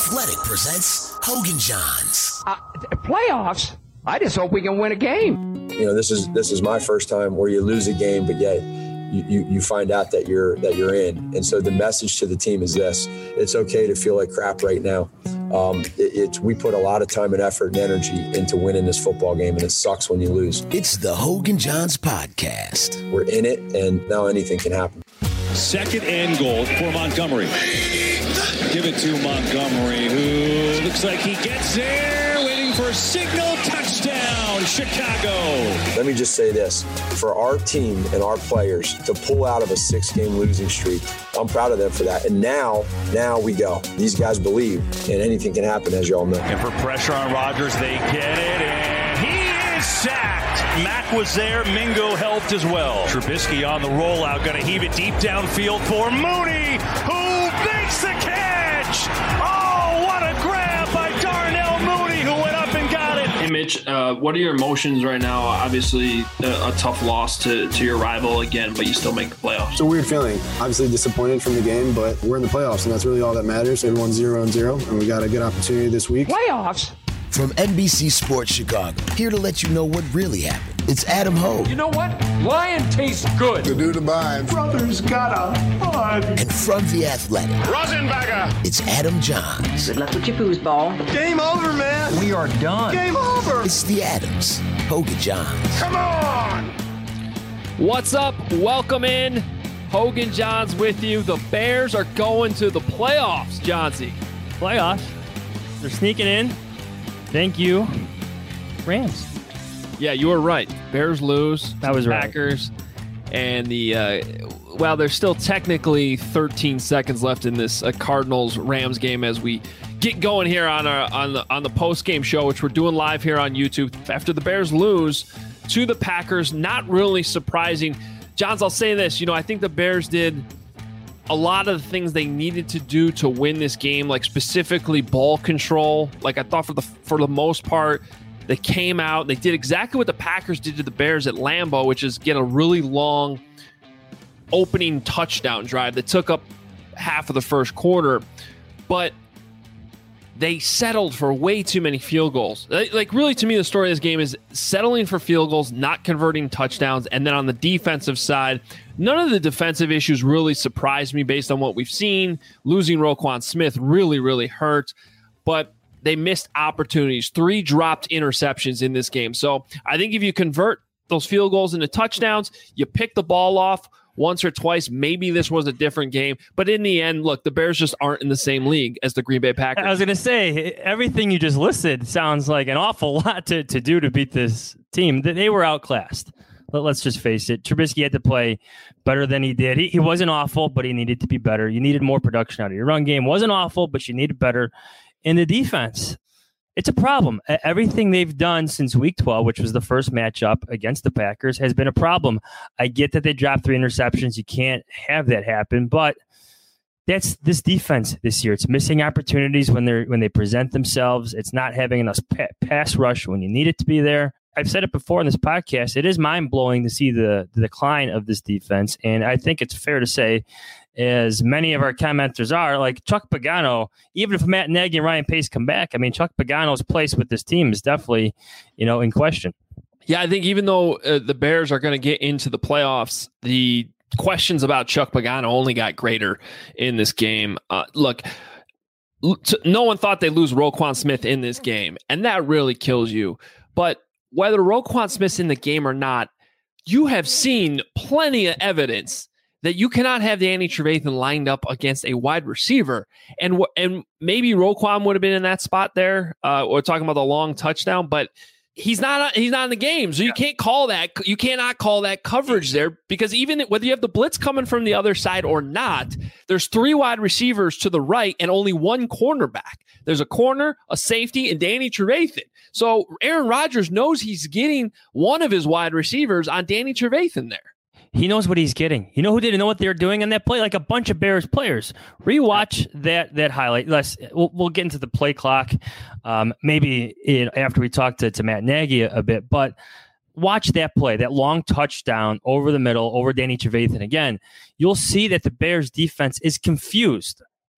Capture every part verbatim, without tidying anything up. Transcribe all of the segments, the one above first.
Athletic presents Hogan Johns. Uh, playoffs? I just hope we can win a game. You know, this is this is my first time where you lose a game, but yet you, you, you find out that you're that you're in. And so the message to the team is this: it's okay to feel like crap right now. Um, it, it's we put a lot of time and effort and energy into winning this football game, and it sucks when you lose. It's the Hogan Johns podcast. We're in it, and now anything can happen. Second and goal for Montgomery. Give it to Montgomery, who looks like he gets there, waiting for a signal. Touchdown, Chicago. Let me just say this. For our team and our players to pull out of a six-game losing streak, I'm proud of them for that. And now, now we go. These guys believe, and anything can happen, as you all know. And for pressure on Rodgers, they get it, and he is sacked. Mack was there. Mingo helped as well. Trubisky on the rollout, going to heave it deep downfield for Mooney, who makes the catch. Oh, what a grab by Darnell Mooney, who went up and got it. Hey, Mitch, uh, what are your emotions right now? Obviously, a, a tough loss to, to your rival again, but you still make the playoffs. It's a weird feeling. Obviously disappointed from the game, but we're in the playoffs, and that's really all that matters. Everyone's zero and zero, and we got a good opportunity this week. Playoffs? From N B C Sports Chicago, here to let you know what really happened. It's Adam Hogue. You know what? Lion tastes good. To do the bind. Brothers got a bud. And from The Athletic, Rosenbagger. It's Adam Johns. Good luck with your foosball. Game over, man. We are done. Game over. It's the Adams. Hogan Johns. Come on. What's up? Welcome in. Hogan Johns with you. The Bears are going to the playoffs, Johnsy. Playoffs? They're sneaking in. Thank you, Rams. Yeah, you were right. Bears lose. That was right. Packers. And the, uh, well, there's still technically thirteen seconds left in this uh, Cardinals-Rams game as we get going here on our on the on the post-game show, which we're doing live here on YouTube. After the Bears lose to the Packers, not really surprising. Johns, I'll say this. You know, I think the Bears did a lot of the things they needed to do to win this game, like specifically ball control. Like I thought for the for the most part, they came out, they did exactly what the Packers did to the Bears at Lambeau, which is get a really long opening touchdown drive that took up half of the first quarter. But they settled for way too many field goals. Like, really, to me, the story of this game is settling for field goals, not converting touchdowns. And then on the defensive side, none of the defensive issues really surprised me based on what we've seen. Losing Roquan Smith really, really hurt. But they missed opportunities. Three dropped interceptions in this game. So I think if you convert those field goals into touchdowns, you pick the ball off once or twice, maybe this was a different game. But in the end, look, the Bears just aren't in the same league as the Green Bay Packers. I was going to say, everything you just listed sounds like an awful lot to, to do to beat this team. They were outclassed. Let's just face it. Trubisky had to play better than he did. He, he wasn't awful, but he needed to be better. You needed more production out of your run game. Wasn't awful, but you needed better. In the defense, it's a problem. Everything they've done since week twelve, which was the first matchup against the Packers, has been a problem. I get that they dropped three interceptions. You can't have that happen, but that's this defense this year. It's missing opportunities when they're when they present themselves. It's not having enough pa- pass rush when you need it to be there. I've said it before in this podcast. It is mind-blowing to see the, the decline of this defense, and I think it's fair to say, as many of our commenters are, like Chuck Pagano, even if Matt Nagy and Ryan Pace come back, I mean, Chuck Pagano's place with this team is definitely, you know, in question. Yeah, I think even though uh, the Bears are going to get into the playoffs, the questions about Chuck Pagano only got greater in this game. Uh, look, no one thought they'd lose Roquan Smith in this game, and that really kills you. But whether Roquan Smith's in the game or not, you have seen plenty of evidence that you cannot have Danny Trevathan lined up against a wide receiver. And and maybe Roquan would have been in that spot there. Uh, we're talking about the long touchdown, but he's not he's not in the game. So you can't call that. You cannot call that coverage there, because even whether you have the blitz coming from the other side or not, there's three wide receivers to the right and only one cornerback. There's a corner, a safety, and Danny Trevathan. So Aaron Rodgers knows he's getting one of his wide receivers on Danny Trevathan there. He knows what he's getting. You know who didn't know what they were doing on that play? Like a bunch of Bears players. Rewatch that that highlight. Let's we'll, we'll get into the play clock, um, maybe in, after we talk to, to Matt Nagy a, a bit. But watch that play, that long touchdown over the middle, over Danny Trevathan. Again, you'll see that the Bears defense is confused.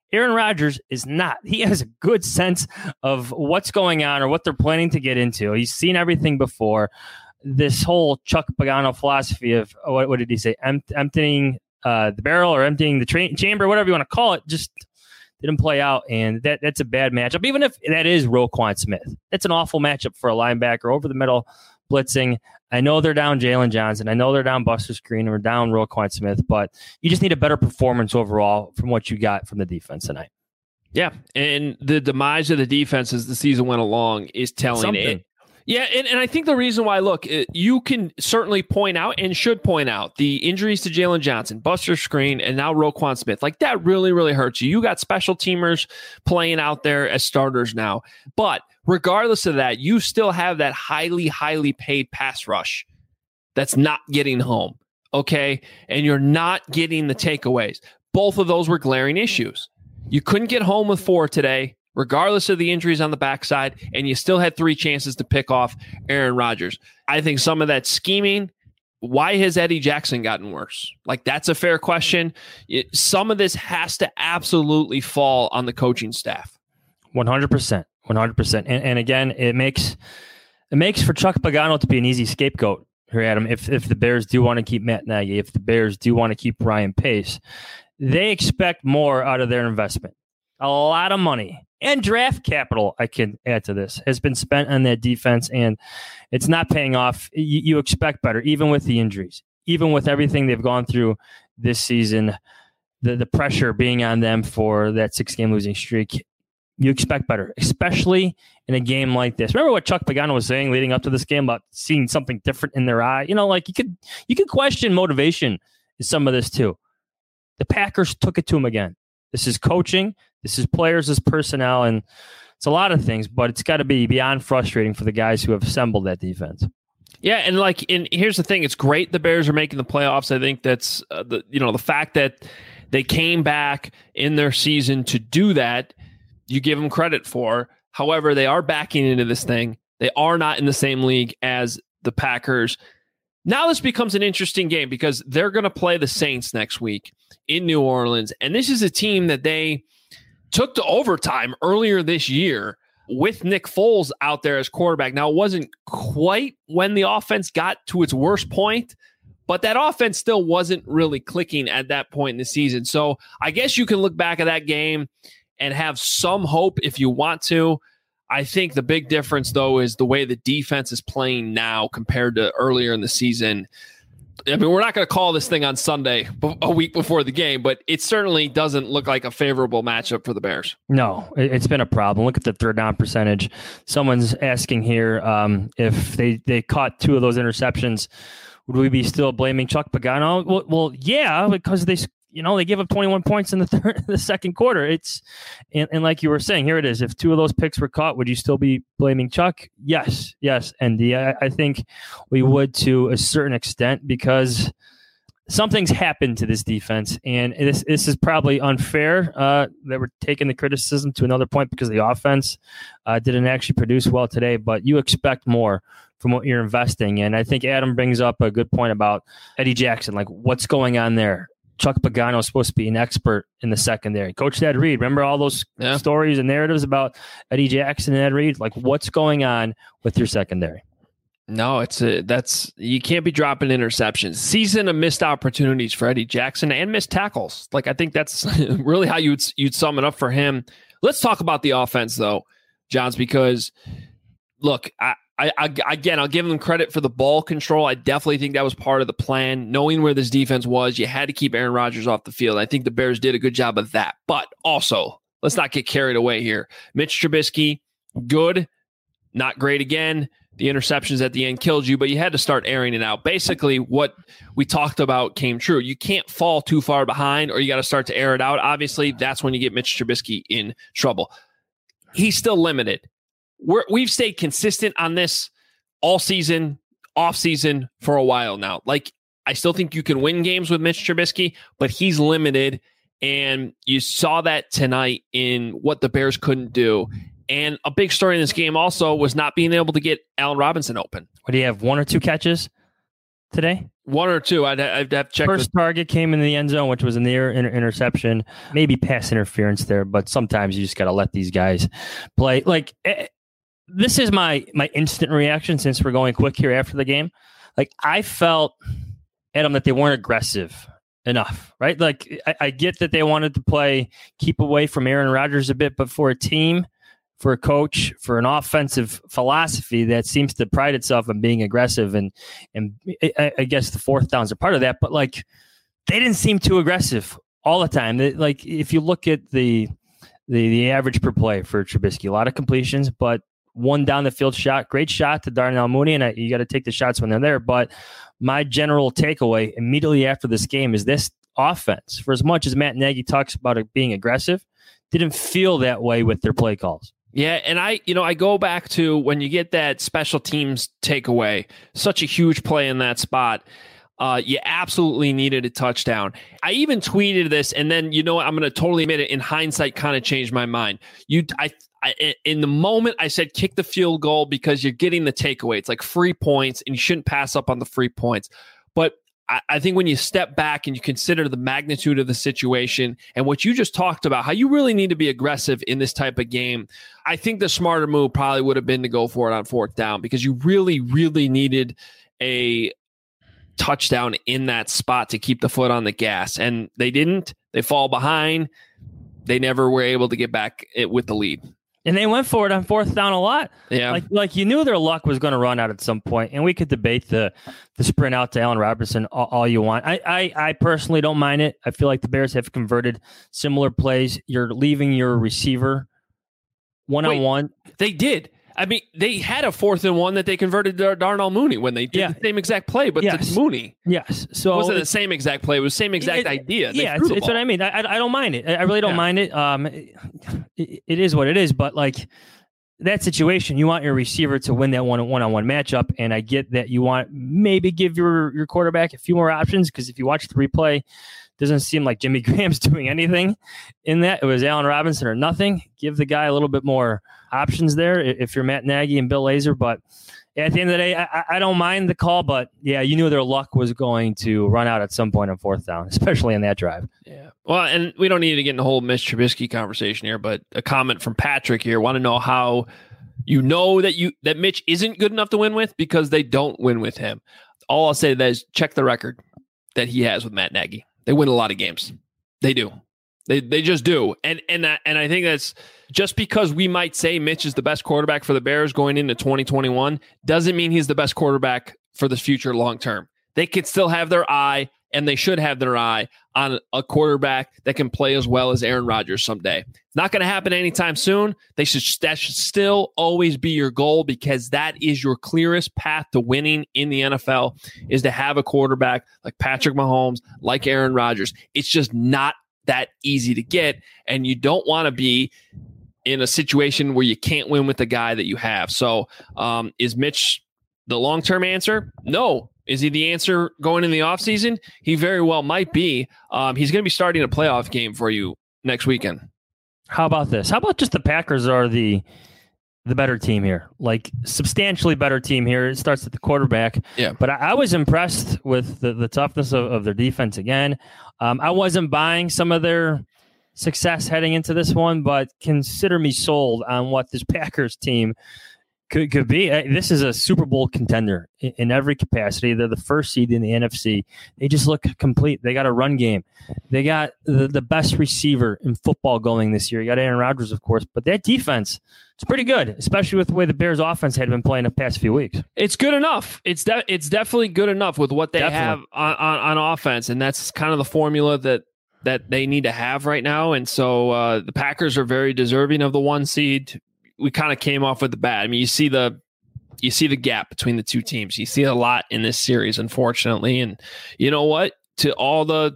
Aaron Rodgers is not. He has a good sense of what's going on or what they're planning to get into. He's seen everything before. This whole Chuck Pagano philosophy of, what, what did he say, Em- emptying uh, the barrel or emptying the tra- chamber, whatever you want to call it, just didn't play out. And that that's a bad matchup, even if that is Roquan Smith. That's an awful matchup for a linebacker over the middle blitzing. I know they're down Jalen Johnson. I know they're down Buster Screen or down Roquan Smith, but you just need a better performance overall from what you got from the defense tonight. Yeah, and the demise of the defense as the season went along is telling Something. it. Yeah, and, and I think the reason why, look, it, you can certainly point out and should point out the injuries to Jalen Johnson, Buster Screen, and now Roquan Smith. Like, that really, really hurts you. You got special teamers playing out there as starters now. But regardless of that, you still have that highly, highly paid pass rush that's not getting home, okay? And you're not getting the takeaways. Both of those were glaring issues. You couldn't get home with four today, regardless of the injuries on the backside, and you still had three chances to pick off Aaron Rodgers. I think some of that scheming, why has Eddie Jackson gotten worse? Like, that's a fair question. It, some of this has to absolutely fall on the coaching staff. one hundred percent. one hundred percent. And, and again, it makes it makes for Chuck Pagano to be an easy scapegoat here, Adam. If, if the Bears do want to keep Matt Nagy, if the Bears do want to keep Ryan Pace, they expect more out of their investment. A lot of money. And draft capital, I can add to this, has been spent on that defense, and it's not paying off. You, you expect better, even with the injuries, even with everything they've gone through this season, the, the pressure being on them for that six-game losing streak. You expect better, especially in a game like this. Remember what Chuck Pagano was saying leading up to this game about seeing something different in their eye? You know, like you could you could question motivation in some of this too. The Packers took it to him again. This is coaching. This is players, this personnel, and it's a lot of things, but it's got to be beyond frustrating for the guys who have assembled that defense. Yeah, and like, and here's the thing: it's great the Bears are making the playoffs. I think that's uh, the you know the fact that they came back in their season to do that. You give them credit for. However, they are backing into this thing. They are not in the same league as the Packers. Now this becomes an interesting game because they're going to play the Saints next week in New Orleans, and this is a team that they took to overtime earlier this year with Nick Foles out there as quarterback. Now, it wasn't quite when the offense got to its worst point, but that offense still wasn't really clicking at that point in the season. So I guess you can look back at that game and have some hope if you want to. I think the big difference, though, is the way the defense is playing now compared to earlier in the season. I mean, we're not going to call this thing on Sunday, a week before the game, but it certainly doesn't look like a favorable matchup for the Bears. No, it's been a problem. Look at the third down percentage. Someone's asking here um, if they, they caught two of those interceptions, would we be still blaming Chuck Pagano? Well, well yeah, because they you know they give up twenty-one points in the third, the second quarter. It's and, and like you were saying, here it is. If two of those picks were caught, would you still be blaming Chuck? Yes, yes, and the, I, I think we would to a certain extent because something's happened to this defense, and this this is probably unfair uh, that we're taking the criticism to another point because the offense uh, didn't actually produce well today. But you expect more from what you're investing in. I think Adam brings up a good point about Eddie Jackson. Like, what's going on there? Chuck Pagano is supposed to be an expert in the secondary. Coach Ed Reed, remember all those yeah. stories and narratives about Eddie Jackson and Ed Reed? Like, what's going on with your secondary? No, it's a, that's you can't be dropping interceptions. Season of missed opportunities for Eddie Jackson and missed tackles. Like, I think that's really how you'd you'd sum it up for him. Let's talk about the offense, though, Johns, because look, I. I, I, again, I'll give them credit for the ball control. I definitely think that was part of the plan. Knowing where this defense was, you had to keep Aaron Rodgers off the field. I think the Bears did a good job of that. But also, let's not get carried away here. Mitch Trubisky, good, not great again. The interceptions at the end killed you, but you had to start airing it out. Basically, what we talked about came true. You can't fall too far behind, or you got to start to air it out. Obviously, that's when you get Mitch Trubisky in trouble. He's still limited. We're, we've stayed consistent on this all season, off season for a while now. Like, I still think you can win games with Mitch Trubisky, but he's limited. And you saw that tonight in what the Bears couldn't do. And a big story in this game also was not being able to get Allen Robinson open. What do you have? One or two catches? today? One or two. I'd, I'd have to check. First the- target came in the end zone, which was a near inter- interception, maybe pass interference there, but sometimes you just got to let these guys play. Like, eh, this is my my instant reaction since we're going quick here after the game. Like, I felt, Adam, that they weren't aggressive enough, right? Like, I, I get that they wanted to play, keep away from Aaron Rodgers a bit, but for a team, for a coach, for an offensive philosophy that seems to pride itself on being aggressive, and and I, I guess the fourth downs are part of that, but like, they didn't seem too aggressive all the time. They, like, if you look at the, the the average per play for Trubisky, a lot of completions, but one down the field shot, great shot to Darnell Mooney, and I, you got to take the shots when they're there. But my general takeaway immediately after this game is this offense, for as much as Matt Nagy talks about it being aggressive, didn't feel that way with their play calls. Yeah, and I, you know, I go back to when you get that special teams takeaway, such a huge play in that spot. Uh, you absolutely needed a touchdown. I even tweeted this, and then, you know what, I'm going to totally admit it, in hindsight, kind of changed my mind. You, I, I, in the moment, I said kick the field goal because you're getting the takeaway. It's like free points, and you shouldn't pass up on the free points. But I, I think when you step back and you consider the magnitude of the situation and what you just talked about, how you really need to be aggressive in this type of game, I think the smarter move probably would have been to go for it on fourth down, because you really, really needed a touchdown in that spot to keep the foot on the gas. And they didn't. They fall behind. They never were able to get back it with the lead. And they went for it on fourth down a lot. Yeah. Like like you knew their luck was going to run out at some point, and we could debate the the sprint out to Allen Robinson all, all you want. I, I I personally don't mind it. I feel like the Bears have converted similar plays. You're leaving your receiver one-on-one. Wait, they did. I mean, they had a fourth and one that they converted to Darnell Mooney when they did yeah. the same exact play, but yes. to Mooney. Yes. So it wasn't the same exact play. It was the same exact it, idea. They yeah, it's, it's what I mean. I, I don't mind it. I really don't yeah. mind it. Um, it, it is what it is, but like that situation, you want your receiver to win that one one-on-one matchup, and I get that you want maybe give your, your quarterback a few more options, because if you watch the replay, doesn't seem like Jimmy Graham's doing anything in that. It was Allen Robinson or nothing. Give the guy a little bit more options there if you're Matt Nagy and Bill Lazor. But at the end of the day, I, I don't mind the call. But, yeah, you knew their luck was going to run out at some point on fourth down, especially in that drive. Yeah. Well, and we don't need to get in the whole Mitch Trubisky conversation here, but a comment from Patrick here. Want to know how you know that you that Mitch isn't good enough to win with, because they don't win with him. All I'll say to that is check the record that he has with Matt Nagy. They win a lot of games. They do. They they just do. And and that, and I think that's just because we might say Mitch is the best quarterback for the Bears going into twenty twenty-one doesn't mean he's the best quarterback for the future long term. They could still have their eye, and they should have their eye on a quarterback that can play as well as Aaron Rodgers someday. It's not going to happen anytime soon. They should that should still always be your goal, because that is your clearest path to winning in the N F L, is to have a quarterback like Patrick Mahomes, like Aaron Rodgers. It's just not that easy to get, and you don't want to be in a situation where you can't win with the guy that you have. So um, is Mitch the long-term answer? No. Is he the answer going in the offseason? He very well might be. Um, he's going to be starting a playoff game for you next weekend. How about this? How about just the Packers are the the better team here? Like, substantially better team here. It starts at the quarterback. Yeah. But I, I was impressed with the, the toughness of, of their defense again. Um, I wasn't buying some of their success heading into this one, but consider me sold on what this Packers team Could could be. This is a Super Bowl contender in, in every capacity. They're the first seed in the N F C. They just look complete. They got a run game. They got the, the best receiver in football going this year. You got Aaron Rodgers, of course, but that defense, it's pretty good, especially with the way the Bears offense had been playing the past few weeks. It's good enough. It's de- it's definitely good enough with what they Definitely. have on, on, on offense, and that's kind of the formula that that they need to have right now. And so uh, the Packers are very deserving of the one seed. We kind of came off with the bad. I mean, you see the you see the gap between the two teams. You see a lot in this series, unfortunately. And you know what? To all the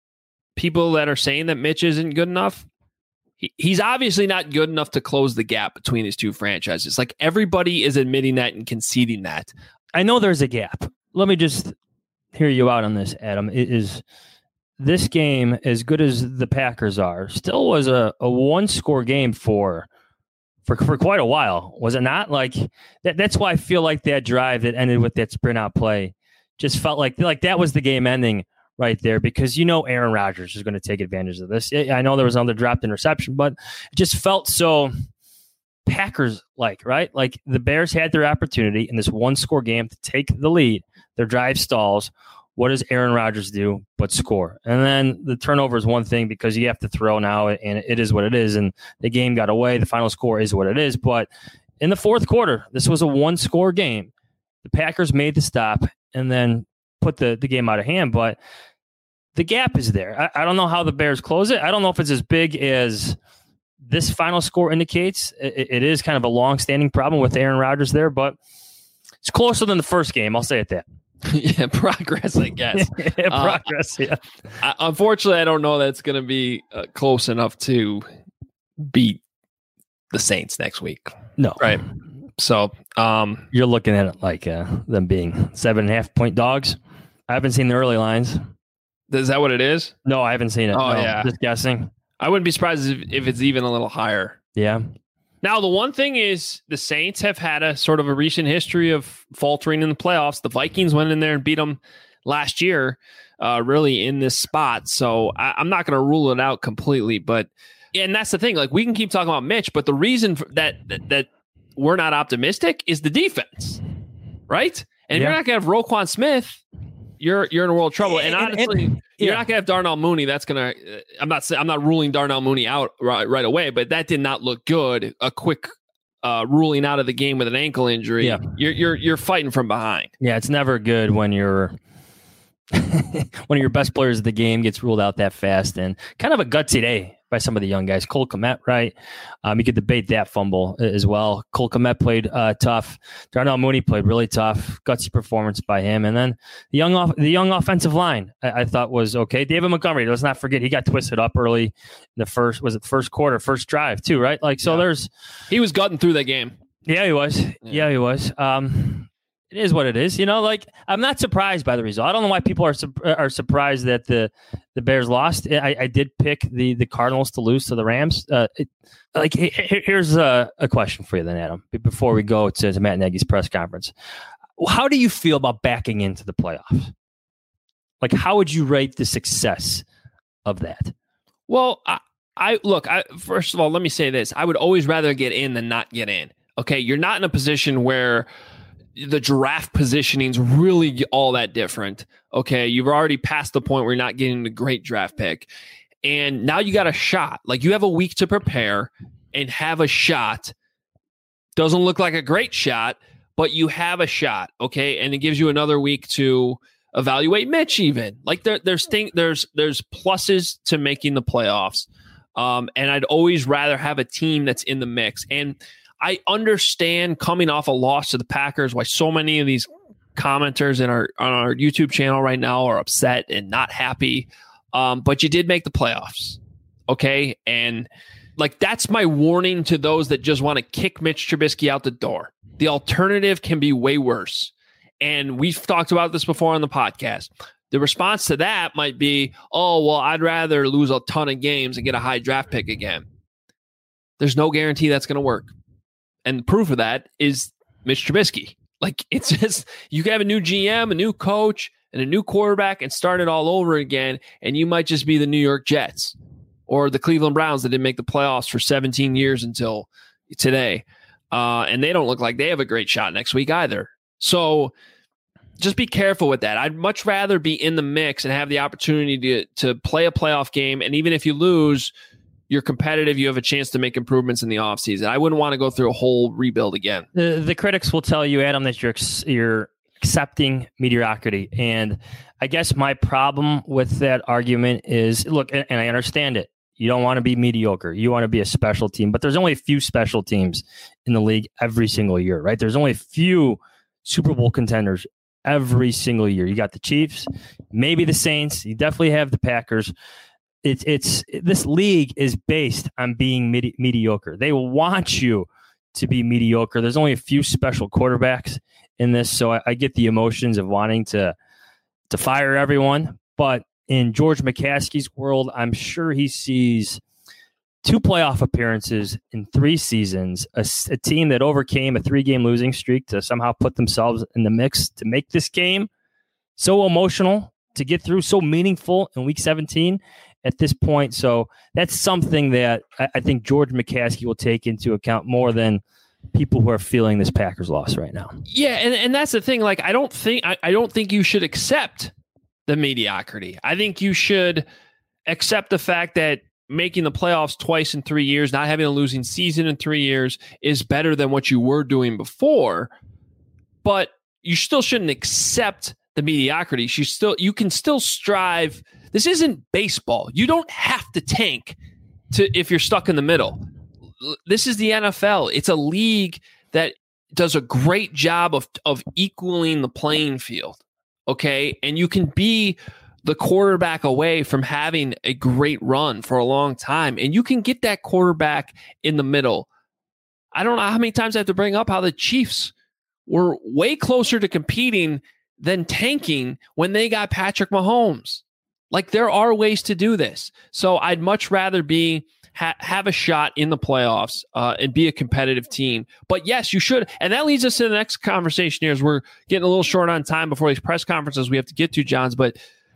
people that are saying that Mitch isn't good enough, he, he's obviously not good enough to close the gap between these two franchises. Like, everybody is admitting that and conceding that. I know there's a gap. Let me just hear you out on this, Adam. It is this game, as good as the Packers are, still was a, a one-score game for For, for quite a while, was it not? Like that, that's why I feel like that drive that ended with that sprint out play just felt like like that was the game ending right there, because you know Aaron Rodgers is going to take advantage of this. I know there was another dropped interception, but it just felt so Packers-like, right? Like the Bears had their opportunity in this one-score game to take the lead. Their drive stalls. What does Aaron Rodgers do but score? And then the turnover is one thing because you have to throw now, and it is what it is. And the game got away. The final score is what it is. But in the fourth quarter, this was a one-score game. The Packers made the stop and then put the, the game out of hand. But the gap is there. I, I don't know how the Bears close it. I don't know if it's as big as this final score indicates. It, it is kind of a long-standing problem with Aaron Rodgers there, but it's closer than the first game. I'll say it that. yeah, progress, I guess. yeah, progress, uh, yeah. I, unfortunately, I don't know that it's going to be uh, close enough to beat the Saints next week. No. Right. So um, you're looking at it like uh, them being seven and a half point dogs. I haven't seen the early lines. Is that what it is? No, I haven't seen it. Oh, no, yeah. Just guessing. I wouldn't be surprised if, if it's even a little higher. Yeah. Now, the one thing is the Saints have had a sort of a recent history of faltering in the playoffs. The Vikings went in there and beat them last year, uh, really in this spot. So I, I'm not going to rule it out completely. But and that's the thing. Like, we can keep talking about Mitch, but the reason for that, that that we're not optimistic is the defense, right? And if yeah. you're not going to have Roquan Smith, you're you're in a world of trouble. And, and honestly, and, and, you're yeah. not going to have Darnell Mooney. That's going to. Uh, I'm not. I'm not ruling Darnell Mooney out right, right away, but that did not look good. A quick uh, ruling out of the game with an ankle injury. Yeah. You're you're you're fighting from behind. Yeah, it's never good when you're one of your best players of the game gets ruled out that fast, and kind of a gutsy day by some of the young guys. Cole Kmet, right? Um, you could debate that fumble as well. Cole Kmet played uh, tough. Darnell Mooney played really tough. Gutsy performance by him. And then the young off the young offensive line, I, I thought was okay. David Montgomery, let's not forget, he got twisted up early in the first, was it first quarter, first drive too, right? Like, so yeah. there's... He was gutting through that game. Yeah, he was. Yeah, yeah he was. Um, it is what it is. You know, like, I'm not surprised by the result. I don't know why people are su- are surprised that the, the Bears lost. I, I did pick the the Cardinals to lose to the Rams. Uh, it, like, here's a, a question for you then, Adam, before we go to, to Matt Nagy's press conference. How do you feel about backing into the playoffs? Like, how would you rate the success of that? Well, I, I look, I, first of all, let me say this. I would always rather get in than not get in. Okay, you're not in a position where the draft positioning is really all that different. Okay, you've already passed the point where you're not getting the great draft pick. And now you got a shot. Like, you have a week to prepare and have a shot. Doesn't look like a great shot, but you have a shot. Okay, and it gives you another week to evaluate Mitch even. Like, there, there's thing, there's there's pluses to making the playoffs. Um, and I'd always rather have a team that's in the mix. And I understand coming off a loss to the Packers why so many of these commenters in our on our YouTube channel right now are upset and not happy. Um, but you did make the playoffs. Okay. And like, that's my warning to those that just want to kick Mitch Trubisky out the door. The alternative can be way worse. And we've talked about this before on the podcast. The response to that might be, oh, well, I'd rather lose a ton of games and get a high draft pick again. There's no guarantee that's going to work. And proof of that is Mitch Trubisky. Like, it's just, you can have a new G M, a new coach, and a new quarterback and start it all over again, and you might just be the New York Jets or the Cleveland Browns that didn't make the playoffs for seventeen years until today. Uh, and they don't look like they have a great shot next week either. So just be careful with that. I'd much rather be in the mix and have the opportunity to, to play a playoff game, and even if you lose, you're competitive, you have a chance to make improvements in the offseason. I wouldn't want to go through a whole rebuild again. The, the critics will tell you, Adam, that you're you're accepting mediocrity. And I guess my problem with that argument is, look, and, and I understand it. You don't want to be mediocre. You want to be a special team. But there's only a few special teams in the league every single year, right? There's only a few Super Bowl contenders every single year. You got the Chiefs, maybe the Saints. You definitely have the Packers. It's it's this league is based on being medi- mediocre. They want you to be mediocre. There's only a few special quarterbacks in this, so I, I get the emotions of wanting to to fire everyone. But in George McCaskey's world, I'm sure he sees two playoff appearances in three seasons, a, a team that overcame a three-game losing streak to somehow put themselves in the mix to make this game. so emotional to get through, so meaningful in week seventeen at this point. So that's something that I, I think George McCaskey will take into account more than people who are feeling this Packers loss right now. Yeah, and, and that's the thing. Like, I don't think I, I don't think you should accept the mediocrity. I think you should accept the fact that making the playoffs twice in three years, not having a losing season in three years is better than what you were doing before. But you still shouldn't accept the mediocrity. You still you can still strive. This isn't baseball. You don't have to tank to if you're stuck in the middle. This is the N F L. It's a league that does a great job of of equaling the playing field. Okay, and you can be the quarterback away from having a great run for a long time, and you can get that quarterback in the middle. I don't know how many times I have to bring up how the Chiefs were way closer to competing than tanking when they got Patrick Mahomes. Like, there are ways to do this. So I'd much rather be ha- have a shot in the playoffs uh, and be a competitive team. But yes, you should. And that leads us to the next conversation here, as we're getting a little short on time before these press conferences we have to get to, Johns. But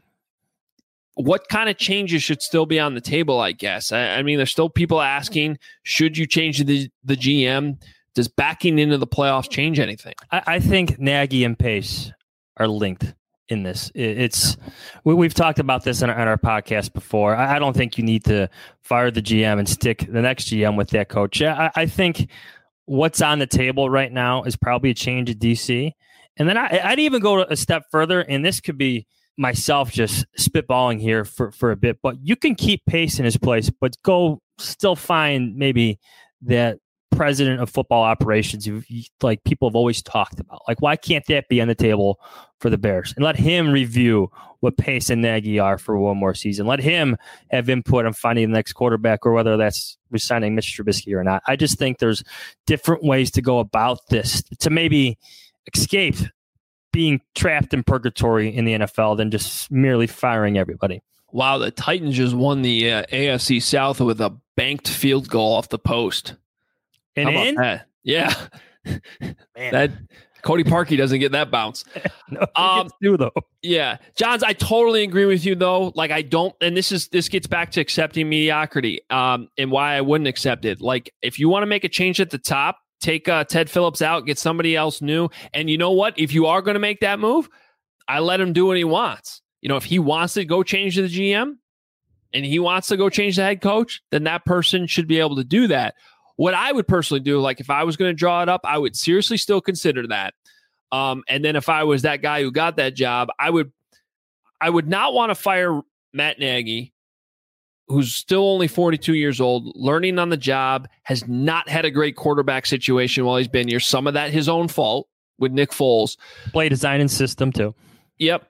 what kind of changes should still be on the table, I guess? I, I mean, there's still people asking, should you change the, the G M? Does backing into the playoffs change anything? I, I think Nagy and Pace are linked in this. It, it's we, we've talked about this on our, on our podcast before. I, I don't think you need to fire the G M and stick the next G M with that coach. I, I think what's on the table right now is probably a change at D C. And then I, I'd even go a step further, and this could be myself just spitballing here for, for a bit, but you can keep Pace in his place, but go still find maybe that president of football operations you, you, like people have always talked about. Like, why can't that be on the table for the Bears? And let him review what Pace and Nagy are for one more season. Let him have input on finding the next quarterback, or whether that's resigning Mitch Trubisky or not. I just think there's different ways to go about this to maybe escape being trapped in purgatory in the N F L than just merely firing everybody. Wow, the Titans just won the uh, A F C South with a banked field goal off the post. And How about in? that? Yeah. Man. That Cody Parkey doesn't get that bounce. no, he um, gets two, though. Yeah. Johns, I totally agree with you, though. Like, I don't, and this is, this gets back to accepting mediocrity um, and why I wouldn't accept it. Like, if you want to make a change at the top, take uh, Ted Phillips out, get somebody else new. And you know what? If you are going to make that move, I let him do what he wants. You know, if he wants to go change the G M and he wants to go change the head coach, then that person should be able to do that. What I would personally do, like if I was going to draw it up, I would seriously still consider that. Um, and then if I was that guy who got that job, I would, I would not want to fire Matt Nagy, who's still only forty-two years old, learning on the job, has not had a great quarterback situation while he's been here. Some of that his own fault with Nick Foles. Play design and system too. Yep.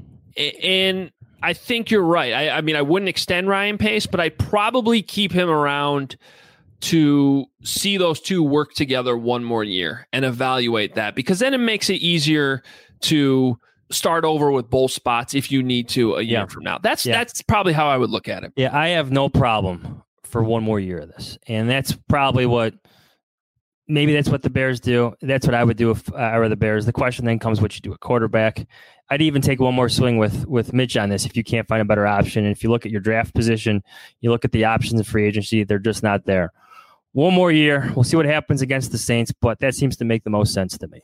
And I think you're right. I, I mean, I wouldn't extend Ryan Pace, but I'd probably keep him around to see those two work together one more year and evaluate that, because then it makes it easier to start over with both spots if you need to a year yeah. from now. That's yeah. that's probably how I would look at it. Yeah, I have no problem for one more year of this. And that's probably what, maybe that's what the Bears do. That's what I would do if I were the Bears. The question then comes what you do at quarterback. I'd even take one more swing with with Mitch on this if you can't find a better option. And if you look at your draft position, you look at the options in free agency, they're just not there. One more year. We'll see what happens against the Saints, but that seems to make the most sense to me.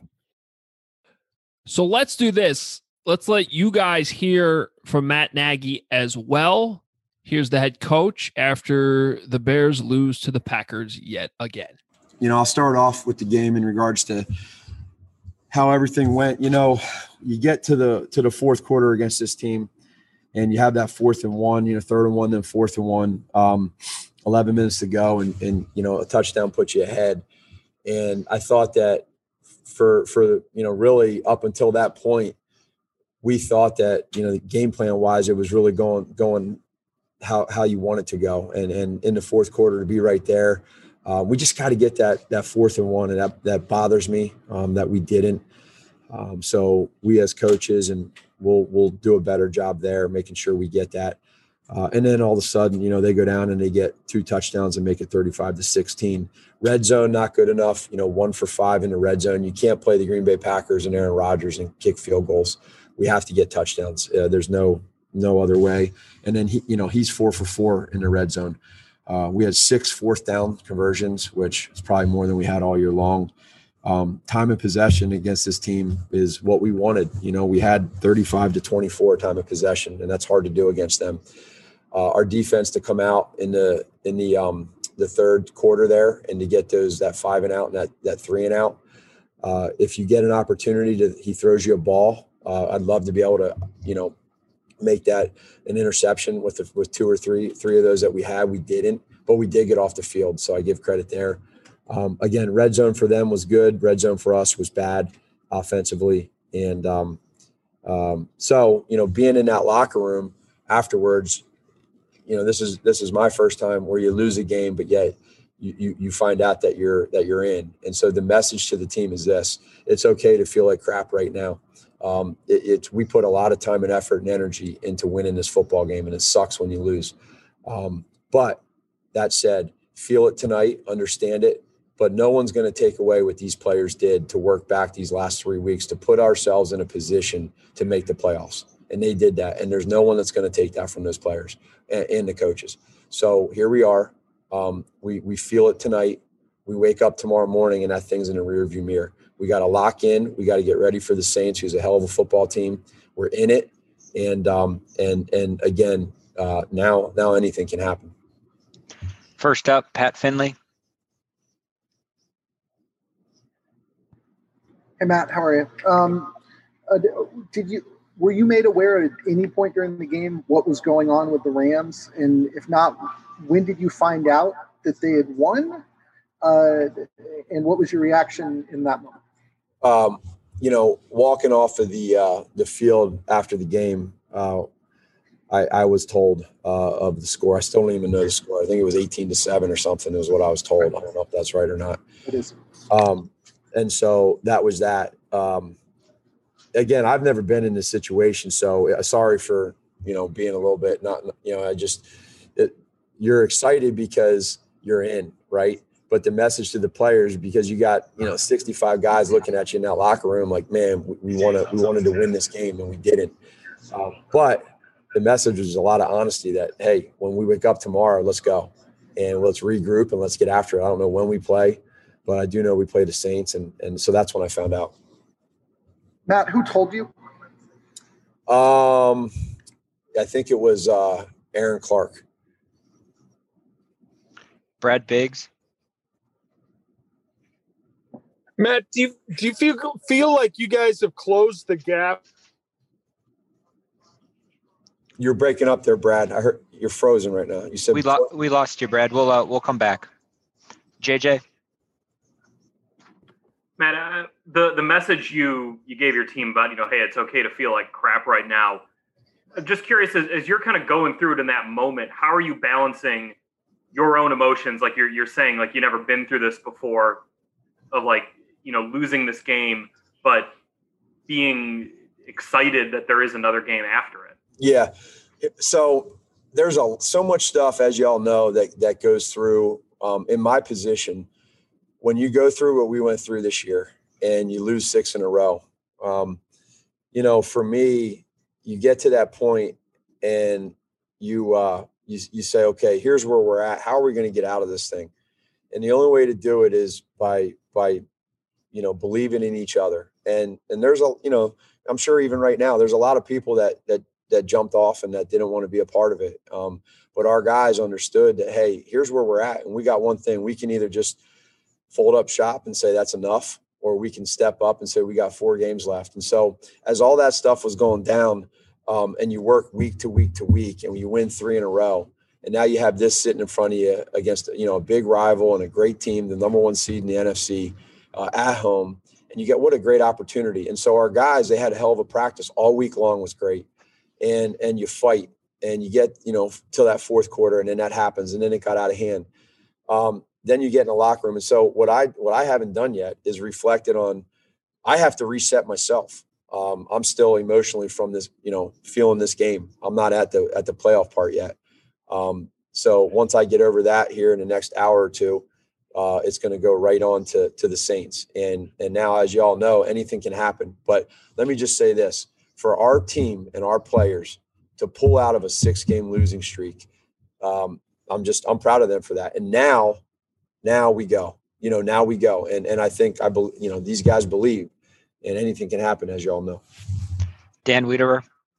So let's do this. Let's let you guys hear from Matt Nagy as well. Here's the head coach after the Bears lose to the Packers yet again. You know, I'll start off with the game in regards to how everything went. You know, you get to the to the fourth quarter against this team, and you have that fourth and one, you know, third and one, then fourth and one, um, eleven minutes to go, and, and, you know, a touchdown puts you ahead. And I thought that for, for you know, really up until that point, we thought that, you know, the game plan wise, it was really going going how how you want it to go. And and in the fourth quarter to be right there. Uh, we just got to get that that fourth and one, and that that bothers me um, that we didn't. Um, so we as coaches, and we'll we'll do a better job there, making sure we get that. Uh, and then all of a sudden, you know, they go down and they get two touchdowns and make it thirty-five to sixteen. Red zone not good enough. You know, one for five in the red zone. You can't play the Green Bay Packers and Aaron Rodgers and kick field goals. we have to get touchdowns. Uh, there's no no other way. And then he, you know, he's four for four in the red zone. Uh, we had six fourth down conversions, which is probably more than we had all year long. Um, time of possession against this team is what we wanted. You know, we had thirty-five to twenty-four time of possession, and that's hard to do against them. Uh, our defense to come out in the in the um, the third quarter there and to get those that five and out and that that three and out. Uh, if you get an opportunity to, he throws you a ball. Uh, I'd love to be able to, you know, make that an interception with the, with two or three three of those that we had. We didn't, but we did get off the field, so I give credit there. Um, again, red zone for them was good. Red zone for us was bad offensively. And um, um, so, you know, being in that locker room afterwards, you know, this is this is my first time where you lose a game, but yet you, you you find out that you're that you're in. And so the message to the team is this: it's okay to feel like crap right now. Um, it, it's we put a lot of time and effort and energy into winning this football game, and it sucks when you lose. Um, but that said, feel it tonight, understand it. But no one's going to take away what these players did to work back these last three weeks to put ourselves in a position to make the playoffs. And they did that. And there's no one that's going to take that from those players and, and the coaches. So here we are. Um, we we feel it tonight. We wake up tomorrow morning and that thing's in the rearview mirror. We got to lock in. We got to get ready for the Saints, who's a hell of a football team. We're in it. And um, and and again, uh, now now anything can happen. First up, Pat Finley. Hey, Matt, how are you? Um, uh, did you were you made aware at any point during the game what was going on with the Rams? And if not, when did you find out that they had won? Uh, and what was your reaction in that moment? Um, you know, walking off of the uh, the field after the game, uh, I, I was told uh, of the score. I still don't even know the score. I think it was eighteen to seven or something is what I was told. I don't know if that's right or not. It is. Um, And so that was that. Um, again, I've never been in this situation, so uh, sorry for, you know, being a little bit not, you know, I just, it, you're excited because you're in, right? But the message to the players, because you got, you know, sixty-five guys looking at you in that locker room, like, man, we, we want to, we wanted to win this game and we didn't. Um, but the message was a lot of honesty that, hey, when we wake up tomorrow, let's go and let's regroup and let's get after it. I don't know when we play, but I do know we play the Saints, and and so that's when I found out. Matt, who told you? Um, I think it was uh, Aaron Clark. Brad Biggs. Matt, do you do you feel feel like you guys have closed the gap? You're breaking up there, Brad. I heard you're frozen right now. You said we lost. We lost you, Brad. We'll uh, we'll come back. J J. Matt, uh, the the message you you gave your team about, you know, hey, it's okay to feel like crap right now. I'm just curious, as, as you're kind of going through it in that moment, how are you balancing your own emotions? Like you're you're saying, like, you've never been through this before, of like, you know, losing this game, but being excited that there is another game after it. Yeah. So there's a so much stuff, as y'all know, that that goes through um, in my position. When you go through what we went through this year and you lose six in a row, um, you know, for me, you get to that point and you, uh, you, you say, okay, here's where we're at. How are we going to get out of this thing? And the only way to do it is by, by, you know, believing in each other. And, and there's a, you know, I'm sure even right now, there's a lot of people that, that, that jumped off and that didn't want to be a part of it. Um, but our guys understood that, hey, here's where we're at. And we got one thing. We can either just fold up shop and say that's enough, or we can step up and say we got four games left. And so as all that stuff was going down, um, and you work week to week to week and you win three in a row, and now you have this sitting in front of you against, you know, a big rival and a great team, the number one seed in the N F C uh, at home, and you get, what a great opportunity. And so our guys, they had a hell of a practice all week long, was great. And, and you fight and you get, you know, till that fourth quarter, and then that happens. And then it got out of hand. Um, Then you get in the locker room. And so what I what I haven't done yet is reflected on, I have to reset myself. Um, I'm still emotionally from this, you know, feeling this game. I'm not at the at the playoff part yet. Um, so once I get over that here in the next hour or two, uh, it's going to go right on to to the Saints. And and now, as you all know, anything can happen. But let me just say this. for our team and our players to pull out of a six-game losing streak, um, I'm just I'm proud of them for that. And now, now we go. You know, now we go. And and I think I believe, you know, these guys believe, and anything can happen, as you all know. Dan Wiederer.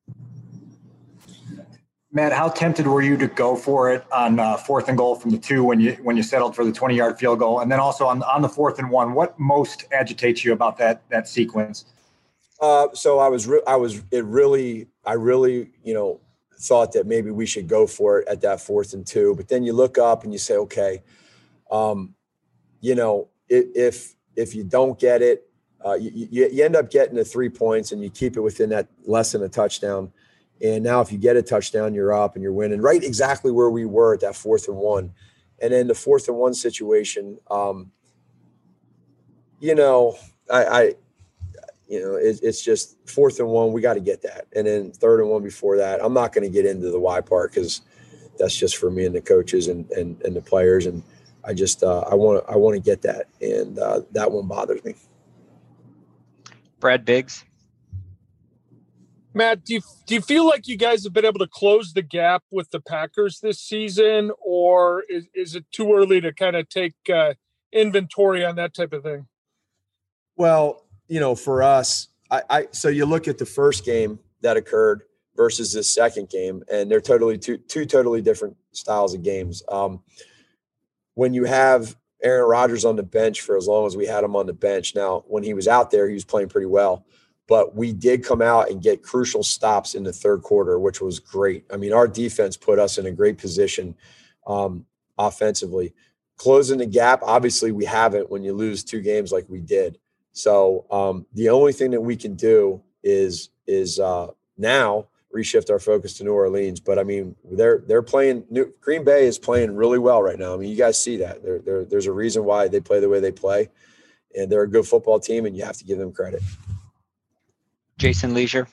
Matt, how tempted were you to go for it on uh, fourth and goal from the two when you when you settled for the twenty-yard field goal, and then also on on the fourth and one? What most agitates you about that that sequence? Uh, so I was re- I was it really I really you know thought that maybe we should go for it at that fourth and two, but then you look up and you say, okay, um, you know if if, if you don't get it, uh, you, you you end up getting the three points and you keep it within that less than a touchdown. And now if you get a touchdown, you're up and you're winning, right exactly where we were at that fourth and one. And then the fourth and one situation, um, you know, I, I you know, it, it's just fourth and one, we got to get that. And then third and one before that, I'm not going to get into the why part because that's just for me and the coaches and, and, and the players. And I just, uh, I want to, I want to get that. And uh, that one bothers me. Brad Biggs. Matt, do you, do you feel like you guys have been able to close the gap with the Packers this season, or is, is it too early to kind of take uh, inventory on that type of thing? Well, you know, for us, I, I so you look at the first game that occurred versus this second game, and they're totally two two totally different styles of games. Um, when you have Aaron Rodgers on the bench for as long as we had him on the bench, now when he was out there, he was playing pretty well. But we did come out and get crucial stops in the third quarter, which was great. I mean, our defense put us in a great position um, offensively. Closing the gap, obviously we haven't when you lose two games like we did. So um, the only thing that we can do is is uh, now reshift our focus to New Orleans. But, I mean, they're they're playing New, – Green Bay is playing really well right now. I mean, you guys see that. They're, they're, there's a reason why they play the way they play, and they're a good football team, and you have to give them credit. Jason Leisure.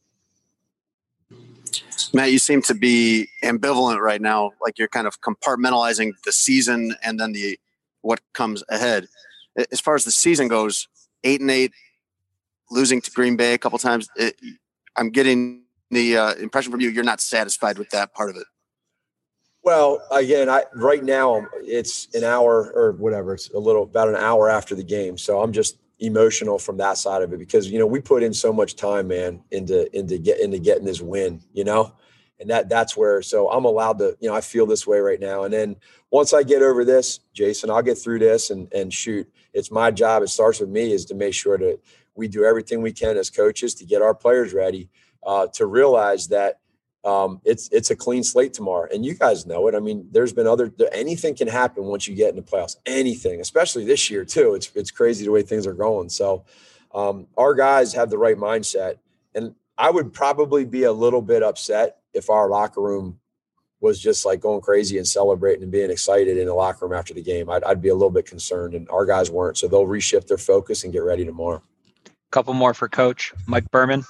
Matt, you seem to be ambivalent right now, like you're kind of compartmentalizing the season and then the what comes ahead. As far as the season goes, eight and eight, losing to Green Bay a couple times. It, I'm getting the uh, impression from you you're not satisfied with that part of it. Well, again, I right now it's an hour or whatever. It's a little about an hour after the game, so I'm just emotional from that side of it because, you know, we put in so much time, man, into, into get into getting this win, you know, and that that's where, so I'm allowed to, you know, I feel this way right now. And then once I get over this, Jason, I'll get through this and, and shoot, it's my job. It starts with me is to make sure that we do everything we can as coaches to get our players ready uh, to realize that um, it's, it's a clean slate tomorrow. And you guys know it. I mean, there's been other, anything can happen once you get into playoffs, anything, especially this year too. It's, it's crazy the way things are going. So um, our guys have the right mindset. And I would probably be a little bit upset if our locker room was just like going crazy and celebrating and being excited in the locker room after the game. I'd, I'd be a little bit concerned, and our guys weren't. So they'll reshift their focus and get ready tomorrow. Couple more for Coach Mike Berman.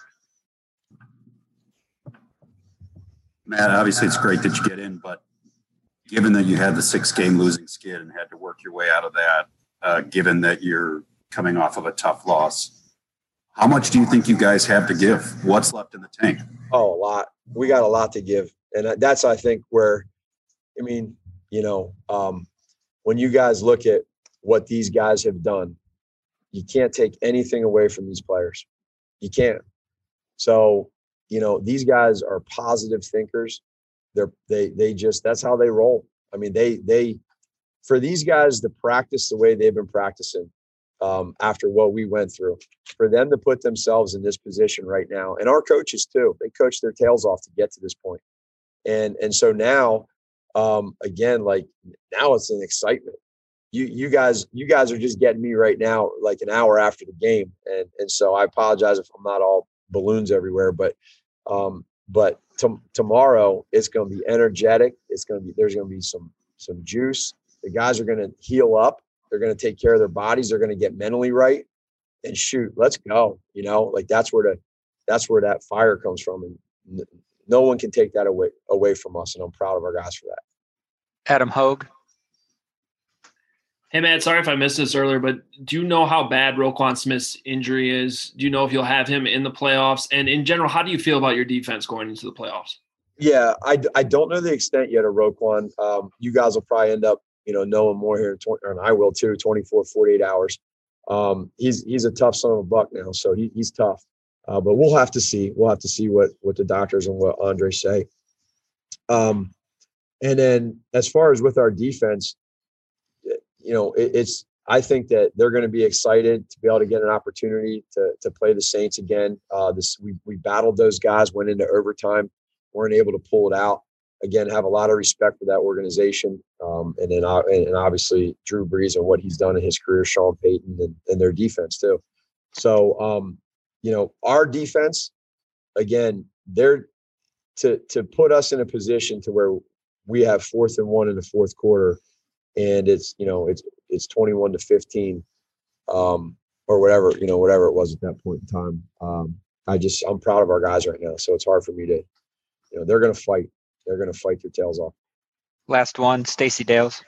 Matt, obviously it's great that you get in, but given that you had the six-game losing skid and had to work your way out of that, uh, given that you're coming off of a tough loss, how much do you think you guys have to give? What's left in the tank? Oh, a lot. We got a lot to give. And that's, I think, where, I mean, you know, um, when you guys look at what these guys have done, you can't take anything away from these players. You can't. So, you know, these guys are positive thinkers. They're, they, they just, that's how they roll. I mean, they, they, for these guys to practice the way they've been practicing um, after what we went through, for them to put themselves in this position right now, and our coaches too, they coach their tails off to get to this point. And, and so now, um, again, like now it's an excitement. You, you guys, you guys are just getting me right now, like an hour after the game. And, and so I apologize if I'm not all balloons everywhere, but, um, but t- tomorrow it's going to be energetic. It's going to be, there's going to be some, some juice. The guys are going to heal up. They're going to take care of their bodies. They're going to get mentally right and shoot, let's go. You know, like that's where the, that's where that fire comes from. And no one can take that away, away from us. And I'm proud of our guys for that. Adam Hogue. Hey, Matt, sorry if I missed this earlier, but do you know how bad Roquan Smith's injury is? Do you know if you'll have him in the playoffs? And in general, how do you feel about your defense going into the playoffs? Yeah, I, I don't know the extent yet of Roquan. Um, you guys will probably end up, you know, knowing more here, in twenty, and I will too, twenty-four, forty-eight hours. Um, he's he's a tough son of a buck now, so he, he's tough. Uh, but we'll have to see. We'll have to see what what the doctors and what Andre say. Um, and then as far as with our defense, you know, it, it's I think that they're going to be excited to be able to get an opportunity to to play the Saints again. Uh, this we we battled those guys, went into overtime, weren't able to pull it out. Again, have a lot of respect for that organization, um, and then uh, and obviously Drew Brees and what he's done in his career, Sean Payton and, and their defense too. So, um, you know, our defense, again, they're to to put us in a position to where we have fourth and one in the fourth quarter, and it's you know it's it's twenty-one to fifteen, um, or whatever you know whatever it was at that point in time. Um, I just I'm proud of our guys right now, so it's hard for me to, you know, they're going to fight. They're going to fight their tails off. Last one, Stacey Dales.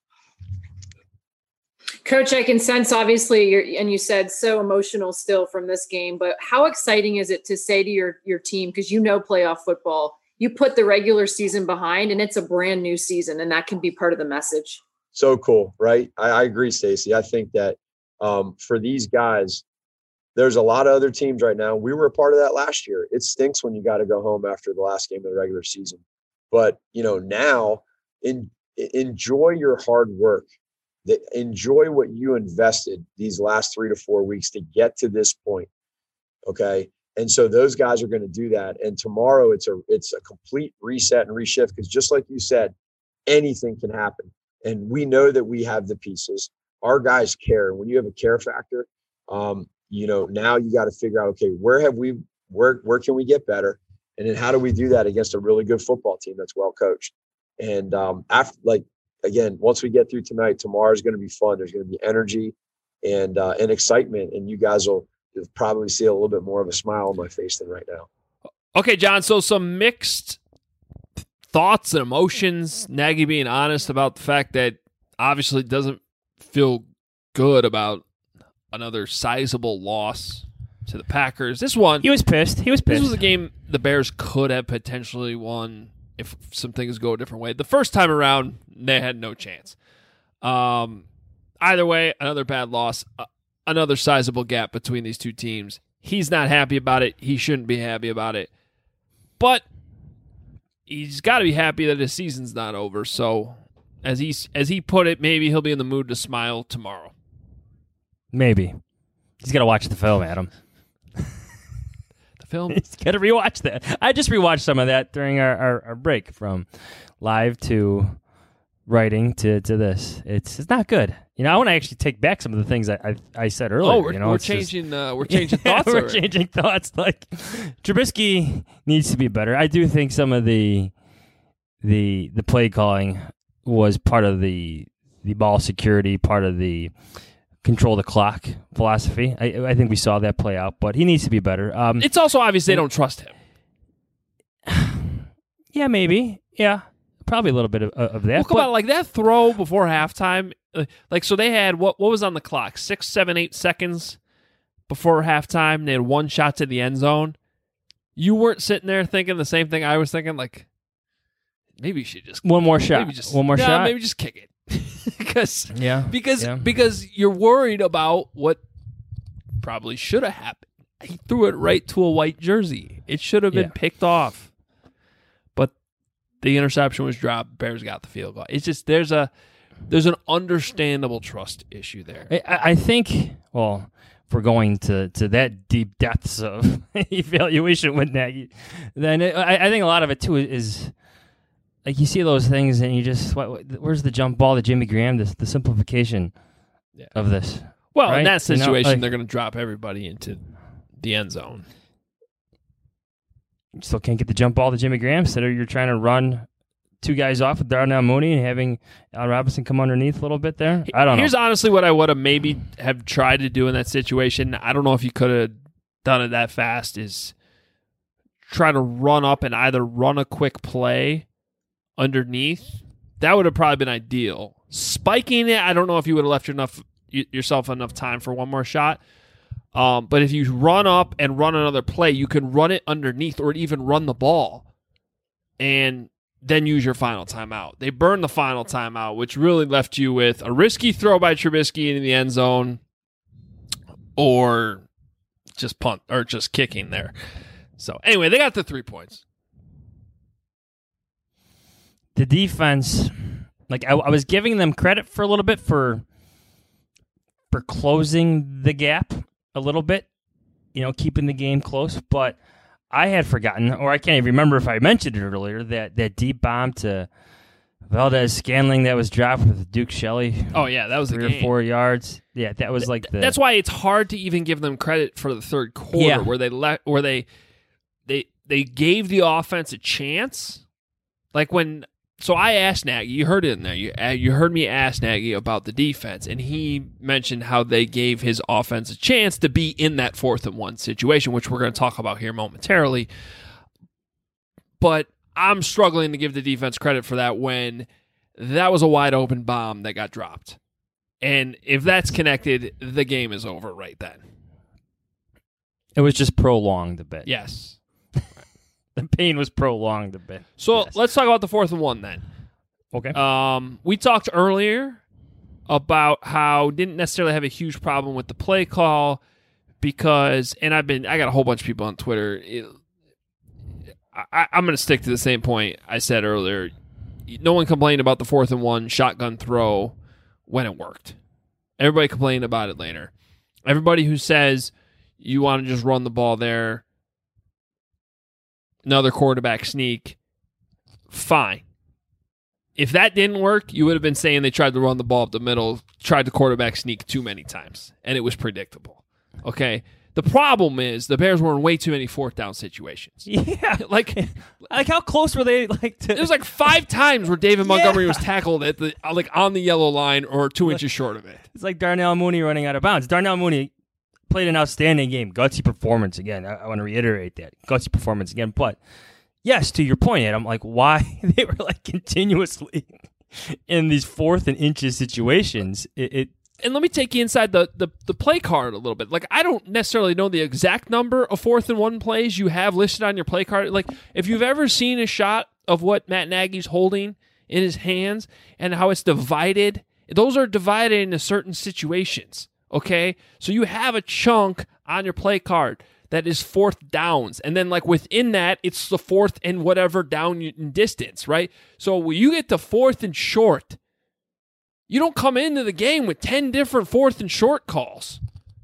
Coach, I can sense obviously you're, and you said so emotional still from this game, but how exciting is it to say to your, your team, because you know playoff football, you put the regular season behind and it's a brand new season, and that can be part of the message. So cool, right? I, I agree, Stacey. I think that um, for these guys, there's a lot of other teams right now. We were a part of that last year. It stinks when you got to go home after the last game of the regular season. But, you know, now in, enjoy your hard work. Enjoy what you invested these last three to four weeks to get to this point. Okay. And so those guys are going to do that. And tomorrow it's a, it's a complete reset and reshift, because just like you said, anything can happen. And we know that we have the pieces. Our guys care. When you have a care factor, um, you know, now you got to figure out, okay, where have we, where, where can we get better? And then how do we do that against a really good football team that's well coached? And um, after, like, again, once we get through tonight, tomorrow is going to be fun. There's going to be energy and uh, and excitement, and you guys will you'll probably see a little bit more of a smile on my face than right now. Okay, John, so some mixed thoughts and emotions. Nagy being honest about the fact that obviously doesn't feel good about another sizable loss to the Packers. This one, he was pissed. He was pissed. This was a game the Bears could have potentially won if some things go a different way. The first time around, they had no chance. Um, either way, another bad loss, uh, another sizable gap between these two teams. He's not happy about it. He shouldn't be happy about it. But he's got to be happy that his season's not over. So, as he as he put it, maybe he'll be in the mood to smile tomorrow. Maybe. He's got to watch the film, Adam. The film? He's got to rewatch that. I just rewatched some of that during our, our, our break from live to writing to, to this. It's it's not good. You know, I want to actually take back some of the things I I, I said earlier. Oh, we're, you know, we're it's changing just, uh, we're changing yeah, thoughts. We're already. changing thoughts. Like Trubisky needs to be better. I do think some of the the the play calling was part of the the ball security, part of the control the clock philosophy. I, I think we saw that play out, but he needs to be better. Um, it's also obvious they don't trust him. Yeah, maybe. Yeah, probably a little bit of, of that. Well, come but, on, like that throw before halftime. Uh, like, so they had what? What was on the clock? Six, seven, eight seconds before halftime. They had one shot to the end zone. You weren't sitting there thinking the same thing I was thinking. Like, maybe you should just one more shot. Maybe just one more yeah, shot. Maybe just kick it. because yeah, because yeah. because you're worried about what probably should have happened. He threw it right to a white jersey. It should have been yeah. picked off, but the interception was dropped. Bears got the field goal. It's just there's a there's an understandable trust issue there. I, I think. Well, if we're going to, to that deep depths of evaluation with Nagy, then it, I, I think a lot of it too is. Like, you see those things, and you just, what, what, where's the jump ball to Jimmy Graham, this, the simplification yeah. of this? Well, right? in that situation, you know, like, they're going to drop everybody into the end zone. You still can't get the jump ball to Jimmy Graham, so you're trying to run two guys off with Darnell Mooney and having Al Robinson come underneath a little bit there. I don't know. Here's honestly what I would have maybe have tried to do in that situation. I don't know if you could have done it that fast, is try to run up and either run a quick play underneath. That would have probably been ideal. Spiking it, I don't know if you would have left enough yourself enough time for one more shot. Um, but if you run up and run another play, you can run it underneath or even run the ball and then use your final timeout. They burned the final timeout, which really left you with a risky throw by Trubisky into the end zone or just punt or just kicking there. So anyway, they got the three points. The defense, like I, I was giving them credit for a little bit for for closing the gap a little bit, you know, keeping the game close. But I had forgotten, or I can't even remember if I mentioned it earlier, that that deep bomb to Valdez Scantling that was dropped with Duke Shelley. Oh yeah, that was three the game. or four yards. Yeah, that was like the. That's why it's hard to even give them credit for the third quarter, Yeah. where they let, where they, they, they gave the offense a chance. Like when, so I asked Nagy. You heard it in there. You uh, you heard me ask Nagy about the defense, and he mentioned how they gave his offense a chance to be in that fourth and one situation, which we're going to talk about here momentarily. But I'm struggling to give the defense credit for that when that was a wide open bomb that got dropped. And if that's connected, the game is over right then. It was just prolonged a bit. Yes. The pain was prolonged a bit. So let's talk about the fourth and one then. Okay. Um, we talked earlier about how didn't necessarily have a huge problem with the play call because, and I've been, I got a whole bunch of people on Twitter. It, I, I'm going to stick to the same point I said earlier. No one complained about the fourth and one shotgun throw when it worked. Everybody complained about it later. Everybody who says you want to just run the ball there, another quarterback sneak, fine. If that didn't work, you would have been saying they tried to run the ball up the middle, tried the quarterback sneak too many times, and it was predictable. Okay? The problem is the Bears were in way too many fourth down situations. Yeah. Like, like how close were they? Like to... It was like five times where David Montgomery yeah. was tackled at the like on the yellow line or two inches short of it. It's like Darnell Mooney running out of bounds. Darnell Mooney played an outstanding game. Gutsy performance again. I, I want to reiterate that. Gutsy performance again. But, yes, to your point, Ed, I'm like, why they were like continuously in these fourth and inches situations. It, it And let me take you inside the, the, the play card a little bit. Like, I don't necessarily know the exact number of fourth and one plays you have listed on your play card. Like, if you've ever seen a shot of what Matt Nagy's holding in his hands and how it's divided, those are divided into certain situations. Okay, so you have a chunk on your play card that is fourth downs, and then like within that, it's the fourth and whatever down in distance, right? So when you get to fourth and short, you don't come into the game with ten different fourth and short calls.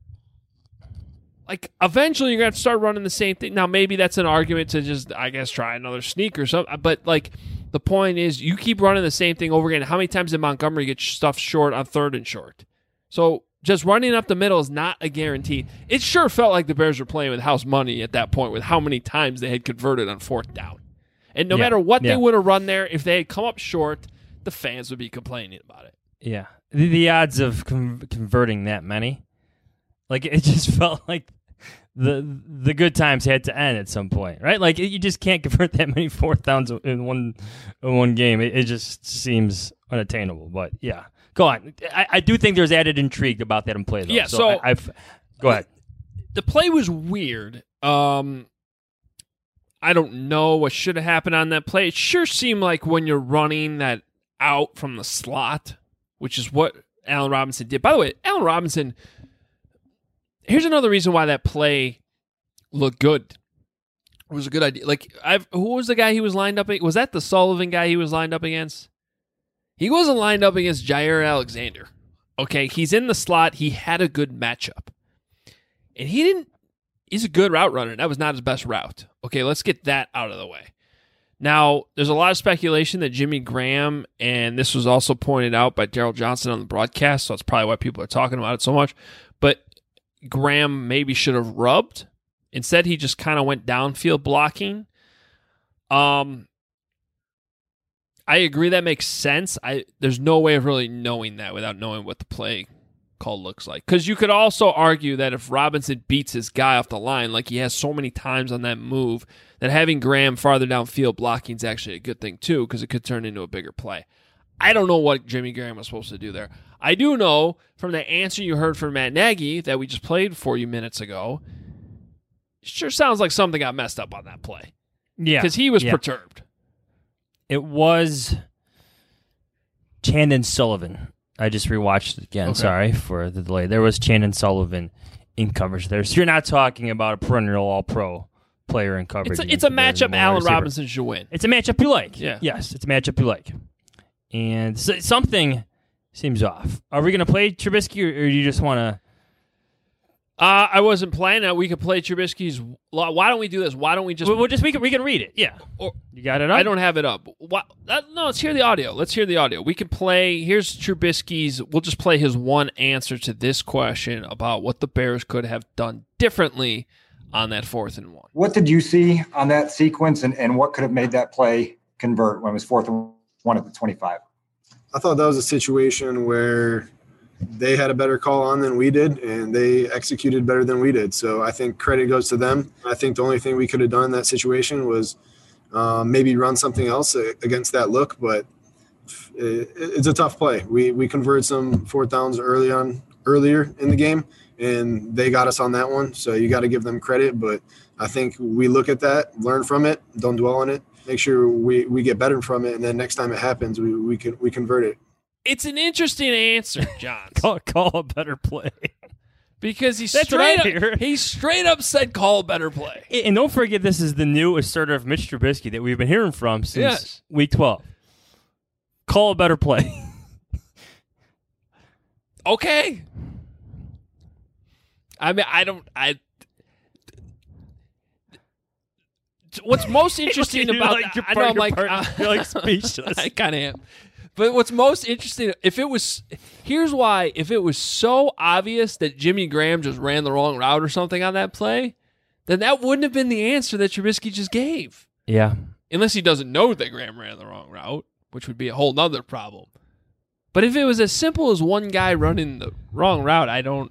Like eventually, you're gonna have to start running the same thing. Now, maybe that's an argument to just, I guess, try another sneak or something. But like the point is, you keep running the same thing over again. How many times did Montgomery get stuffed short on third and short? So just running up the middle is not a guarantee. It sure felt like the Bears were playing with house money at that point with how many times they had converted on fourth down. And no yeah, matter what yeah. they would have run there, if they had come up short, the fans would be complaining about it. Yeah. The, the odds of con- converting that many, like it just felt like the the good times had to end at some point, right? Like you just can't convert that many fourth downs in one in one game. It, it just seems unattainable. But yeah. Go on. I, I do think there's added intrigue about that in play, though. Yeah, so, so I, I've go ahead. The play was weird. Um, I don't know what should have happened on that play. It sure seemed like when you're running that out from the slot, which is what Allen Robinson did. By the way, Allen Robinson, here's another reason why that play looked good. It was a good idea. Like, I've who was the guy he was lined up against? Was that the Sullivan guy he was lined up against? He wasn't lined up against Jair Alexander. Okay, he's in the slot. He had a good matchup. And he didn't, he's a good route runner. That was not his best route. Okay, let's get that out of the way. Now, there's a lot of speculation that Jimmy Graham, and this was also pointed out by Daryl Johnson on the broadcast, so that's probably why people are talking about it so much, but Graham maybe should have rubbed. Instead, he just kind of went downfield blocking. Um, I agree that makes sense. I There's no way of really knowing that without knowing what the play call looks like. Because you could also argue that if Robinson beats his guy off the line, like he has so many times on that move, that having Graham farther downfield blocking is actually a good thing too, because it could turn into a bigger play. I don't know what Jimmy Graham was supposed to do there. I do know from the answer you heard from Matt Nagy that we just played for you minutes ago, it sure sounds like something got messed up on that play. Yeah. Because he was yeah. perturbed. It was Chandon Sullivan. I just rewatched it again. Okay. Sorry for the delay. There was Chandon Sullivan in coverage there. So you're not talking about a perennial all-pro player in coverage. It's a, it's a matchup Allen Robinson should win. It's a matchup you like. Yeah. Yes, it's a matchup you like. And so, something seems off. Are we going to play Trubisky, or, or do you just want to... Uh, I wasn't planning that. We could play Trubisky's... Why don't we do this? Why don't we just... We'll, we'll just we can, we can read it, yeah. Or, you got it up? I don't have it up. Why, uh, no, let's hear the audio. Let's hear the audio. We can play... Here's Trubisky's... We'll just play his one answer to this question about what the Bears could have done differently on that fourth and one. What did you see on that sequence, and, and what could have made that play convert when it was fourth and one at the twenty-five? I thought that was a situation where they had a better call on than we did, and they executed better than we did. So I think credit goes to them. I think the only thing we could have done in that situation was um, maybe run something else against that look, but it, it's a tough play. We we converted some fourth downs early on, earlier in the game, and they got us on that one. So you got to give them credit, but I think we look at that, learn from it, don't dwell on it, make sure we, we get better from it, and then next time it happens, we we can we convert it. It's an interesting answer, John. call, call a better play. Because he That's straight right up, here. he straight up said call a better play. And don't forget, this is the new assertive Mitch Trubisky that we've been hearing from since Yes. week twelve. Call a better play. Okay. I mean, I don't. I. What's most interesting You're about like- you're I part- know I'm you're like part- uh, you're like speechless. I kind of am. But what's most interesting, if it was, here's why: if it was so obvious that Jimmy Graham just ran the wrong route or something on that play, then that wouldn't have been the answer that Trubisky just gave. Yeah. Unless he doesn't know that Graham ran the wrong route, which would be a whole nother problem. But if it was as simple as one guy running the wrong route, I don't.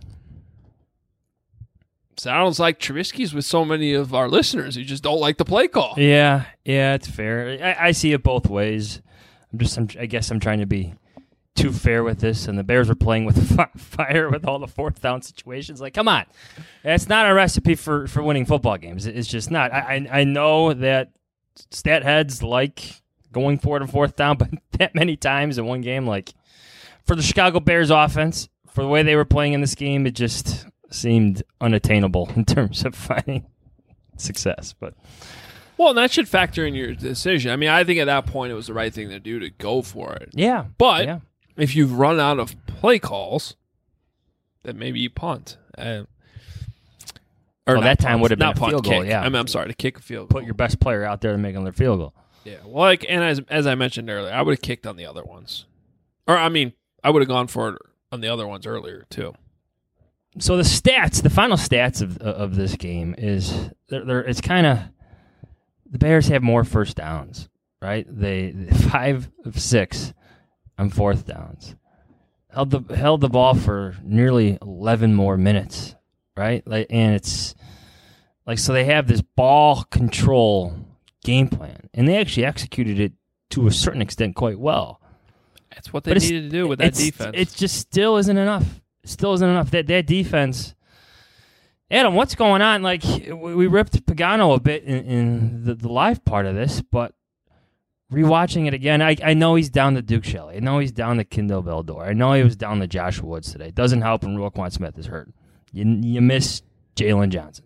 Sounds like Trubisky's with so many of our listeners who just don't like the play call. Yeah, yeah, it's fair. I, I see it both ways. I'm just, I'm, I guess I'm trying to be too fair with this, and the Bears were playing with fire with all the fourth down situations. Like, come on. That's not a recipe for, for winning football games. It's just not. I, I I know that stat heads like going for it on fourth down, but that many times in one game, like, for the Chicago Bears offense, for the way they were playing in this game, it just seemed unattainable in terms of finding success. But Well, and that should factor in your decision. I mean, I think at that point it was the right thing to do to go for it. Yeah. But yeah. if you've run out of play calls, then maybe you punt. Uh, or well, not that time punt, would have been not a punt, field goal. kick. Yeah. I mean, I'm sorry, to kick a field goal. Put your best player out there to make another field goal. Yeah. Well, like, and as as I mentioned earlier, I would have kicked on the other ones. Or, I mean, I would have gone for it on the other ones earlier, too. So the stats, the final stats of of this game is they're, they're it's kind of the Bears have more first downs, right? They five of six on fourth downs, held the held the ball for nearly eleven more minutes, right? Like, and it's like so they have this ball control game plan, and they actually executed it to a certain extent quite well. That's what they But needed to do with that it's- defense. It just still isn't enough. Still isn't enough. That that defense, Adam, what's going on? Like, we ripped Pagano a bit in, in the, the live part of this, but rewatching it again, I, I know he's down to Duke Shelley. I know he's down to Kindle Valdor. I know he was down to Josh Woods today. It doesn't help when Roquan Smith is hurt. You, you miss Jalen Johnson.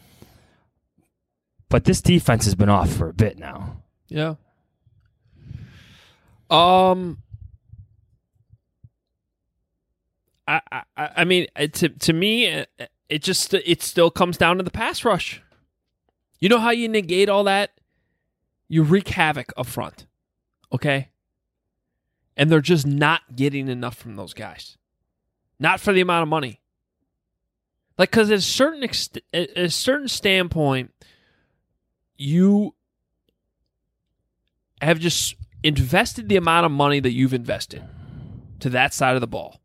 But this defense has been off for a bit now. Yeah. Um... I, I, I mean, to to me, it just it still comes down to the pass rush. You know how you negate all that? You wreak havoc up front, okay? And they're just not getting enough from those guys, not for the amount of money. Like, because at a certain ex- at a certain standpoint, you have just invested the amount of money that you've invested to that side of the ball.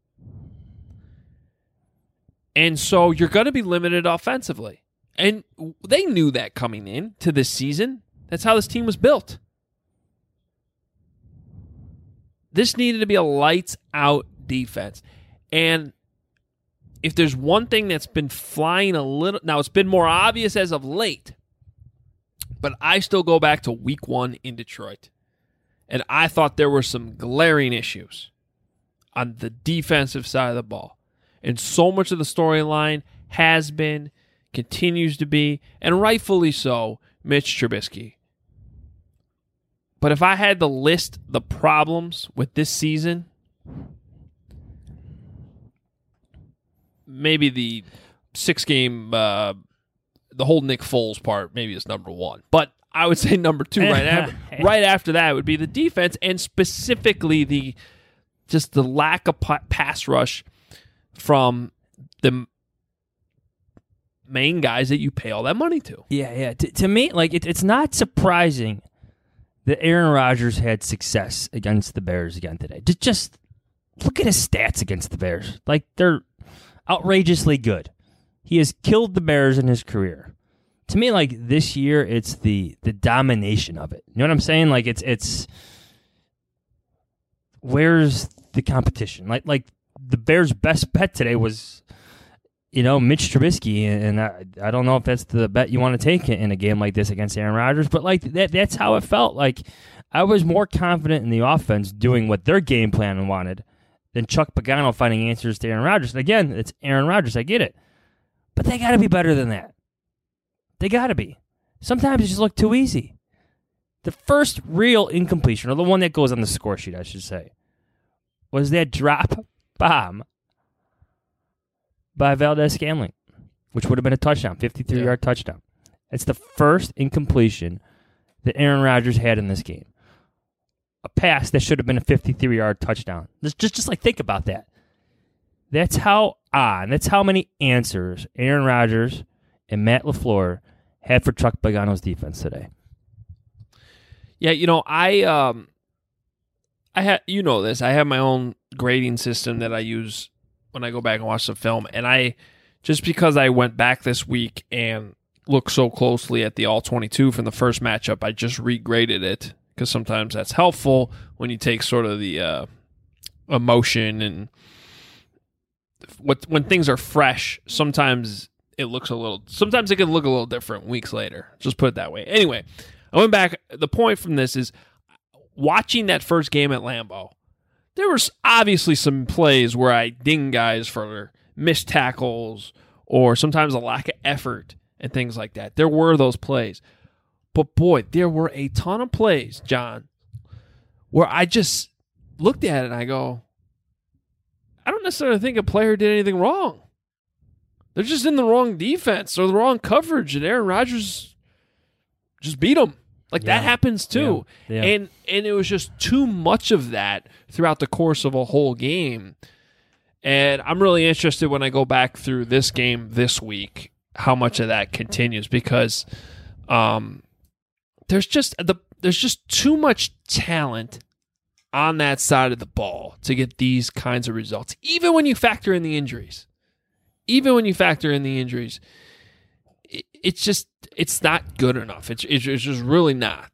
And so you're going to be limited offensively. And they knew that coming in to this season. That's how this team was built. this needed to be a lights-out defense. And if there's one thing that's been flying a little... Now, it's been more obvious as of late, but I still go back to week one in Detroit. And I thought there were some glaring issues on the defensive side of the ball. And so much of the storyline has been, continues to be, and rightfully so, Mitch Trubisky. But if I had to list the problems with this season, maybe the six-game, uh, the whole Nick Foles part maybe is number one. But I would say number two right after, right after that would be the defense, and specifically the just the lack of pass rush from the main guys that you pay all that money to. Yeah, yeah. To, to me, like it, it's not surprising that Aaron Rodgers had success against the Bears again today. Just, just look at his stats against the Bears. Like, they're outrageously good. He has killed the Bears in his career. To me, like, this year, it's the the domination of it. You know what I'm saying? Like, it's it's where's the competition? Like, like the Bears' best bet today was, you know, Mitch Trubisky, and I, I don't know if that's the bet you want to take in a game like this against Aaron Rodgers, but like that that's how it felt. Like, I was more confident in the offense doing what their game plan wanted than Chuck Pagano finding answers to Aaron Rodgers. And again, it's Aaron Rodgers, I get it. But they got to be better than that. They got to be. Sometimes it just looked too easy. The first real incompletion, or the one that goes on the score sheet, I should say, was that drop bomb by Valdez-Scantling, which would have been a touchdown, fifty-three-yard yeah. touchdown. It's the first incompletion that Aaron Rodgers had in this game. A pass that should have been a fifty-three-yard touchdown. Just, just, just like think about that. That's how on. That's how many answers Aaron Rodgers and Matt LaFleur had for Chuck Pagano's defense today. Yeah, you know, I um, I had you know this. I have my own grading system that I use when I go back and watch the film, and I just because I went back this week and looked so closely at the all twenty-two from the first matchup, I just regraded it because sometimes that's helpful when you take sort of the uh, emotion and what when things are fresh. Sometimes it looks a little. Sometimes it can look a little different weeks later. Just put it that way. Anyway, I went back. The point from this is watching that first game at Lambeau. There was obviously some plays where I ding guys for missed tackles or sometimes a lack of effort and things like that. There were those plays. But boy, there were a ton of plays, John, where I just looked at it and I go, I don't necessarily think a player did anything wrong. They're just in the wrong defense or the wrong coverage, and Aaron Rodgers just beat them. Like, yeah. that happens too. Yeah. Yeah. And and it was just too much of that throughout the course of a whole game. And I'm really interested when I go back through this game this week, how much of that continues, because um, there's just the there's just too much talent on that side of the ball to get these kinds of results. Even when you factor in the injuries. Even when you factor in the injuries, it, it's just it's not good enough. It's it's just really not.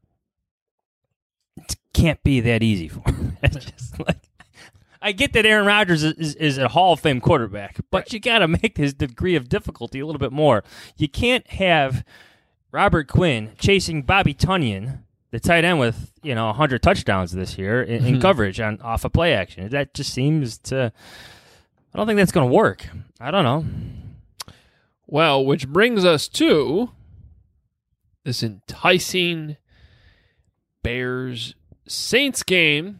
It can't be that easy for him. It's just like, I get that Aaron Rodgers is, is, is a Hall of Fame quarterback, but right. you got to make his degree of difficulty a little bit more. You can't have Robert Quinn chasing Bobby Tunyon, the tight end with you know one hundred touchdowns this year in, in coverage on off a of play action. That just seems to. I don't think that's going to work. I don't know. Well, which brings us to this enticing Bears-Saints game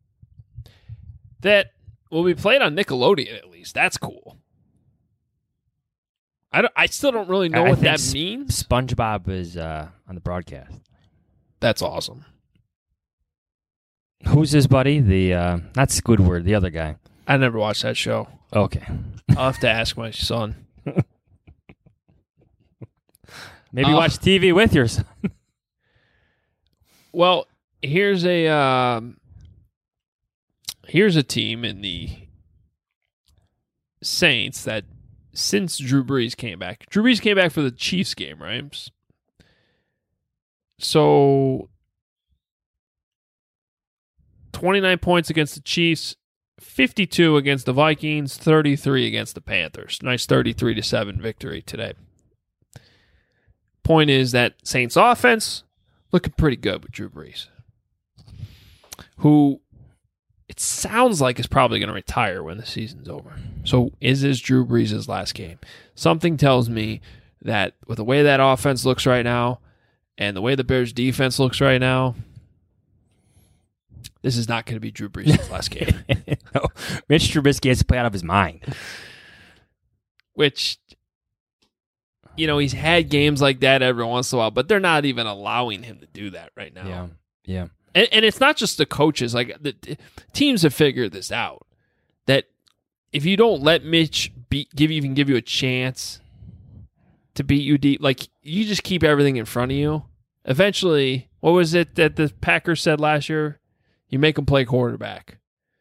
that will be played on Nickelodeon, at least. That's cool. I, don't, I still don't really know I what that Sp- means. SpongeBob is uh, on the broadcast. That's awesome. Who's his buddy? The uh, not Squidward, the other guy. I never watched that show. Okay. I'll have to ask my son. Maybe uh, watch T V with your son. Well, here's a um, here's a team in the Saints that since Drew Brees came back, Drew Brees came back for the Chiefs game, right? So twenty-nine points against the Chiefs, fifty-two against the Vikings, thirty-three against the Panthers. Nice thirty-three to seven victory today. Point is that Saints offense looking pretty good with Drew Brees, who it sounds like is probably going to retire when the season's over. So is this Drew Brees' last game? Something tells me that with the way that offense looks right now and the way the Bears defense looks right now, this is not going to be Drew Brees' last game. No, Mitch Trubisky has to play out of his mind. Which, you know, he's had games like that every once in a while, but they're not even allowing him to do that right now. Yeah, yeah. And, and it's not just the coaches. Like, the, the teams have figured this out, that if you don't let Mitch beat, give even give you a chance to beat you deep, like, you just keep everything in front of you, eventually, what was it that the Packers said last year? You make them play quarterback.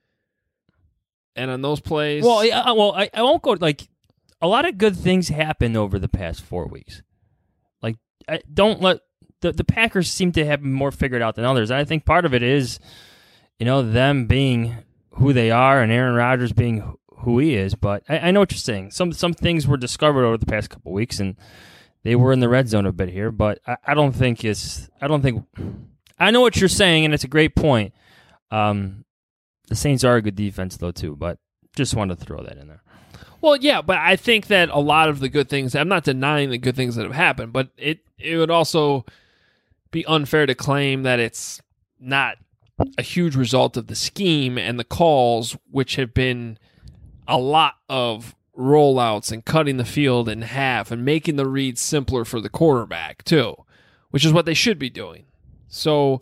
And on those plays... Well, I, well, I, I won't go... Like, a lot of good things happened over the past four weeks. Like, I, don't let... The, the Packers seem to have more figured out than others. I think part of it is, you know, them being who they are and Aaron Rodgers being who he is. But I, I know what you're saying. Some some things were discovered over the past couple of weeks, and they were in the red zone a bit here. But I, I don't think it's... I don't think... I know what you're saying, and it's a great point. Um, the Saints are a good defense, though, too, but just wanted to throw that in there. Well, yeah, but I think that a lot of the good things, I'm not denying the good things that have happened, but it, it would also be unfair to claim that it's not a huge result of the scheme and the calls, which have been a lot of rollouts and cutting the field in half and making the reads simpler for the quarterback, too, which is what they should be doing. So...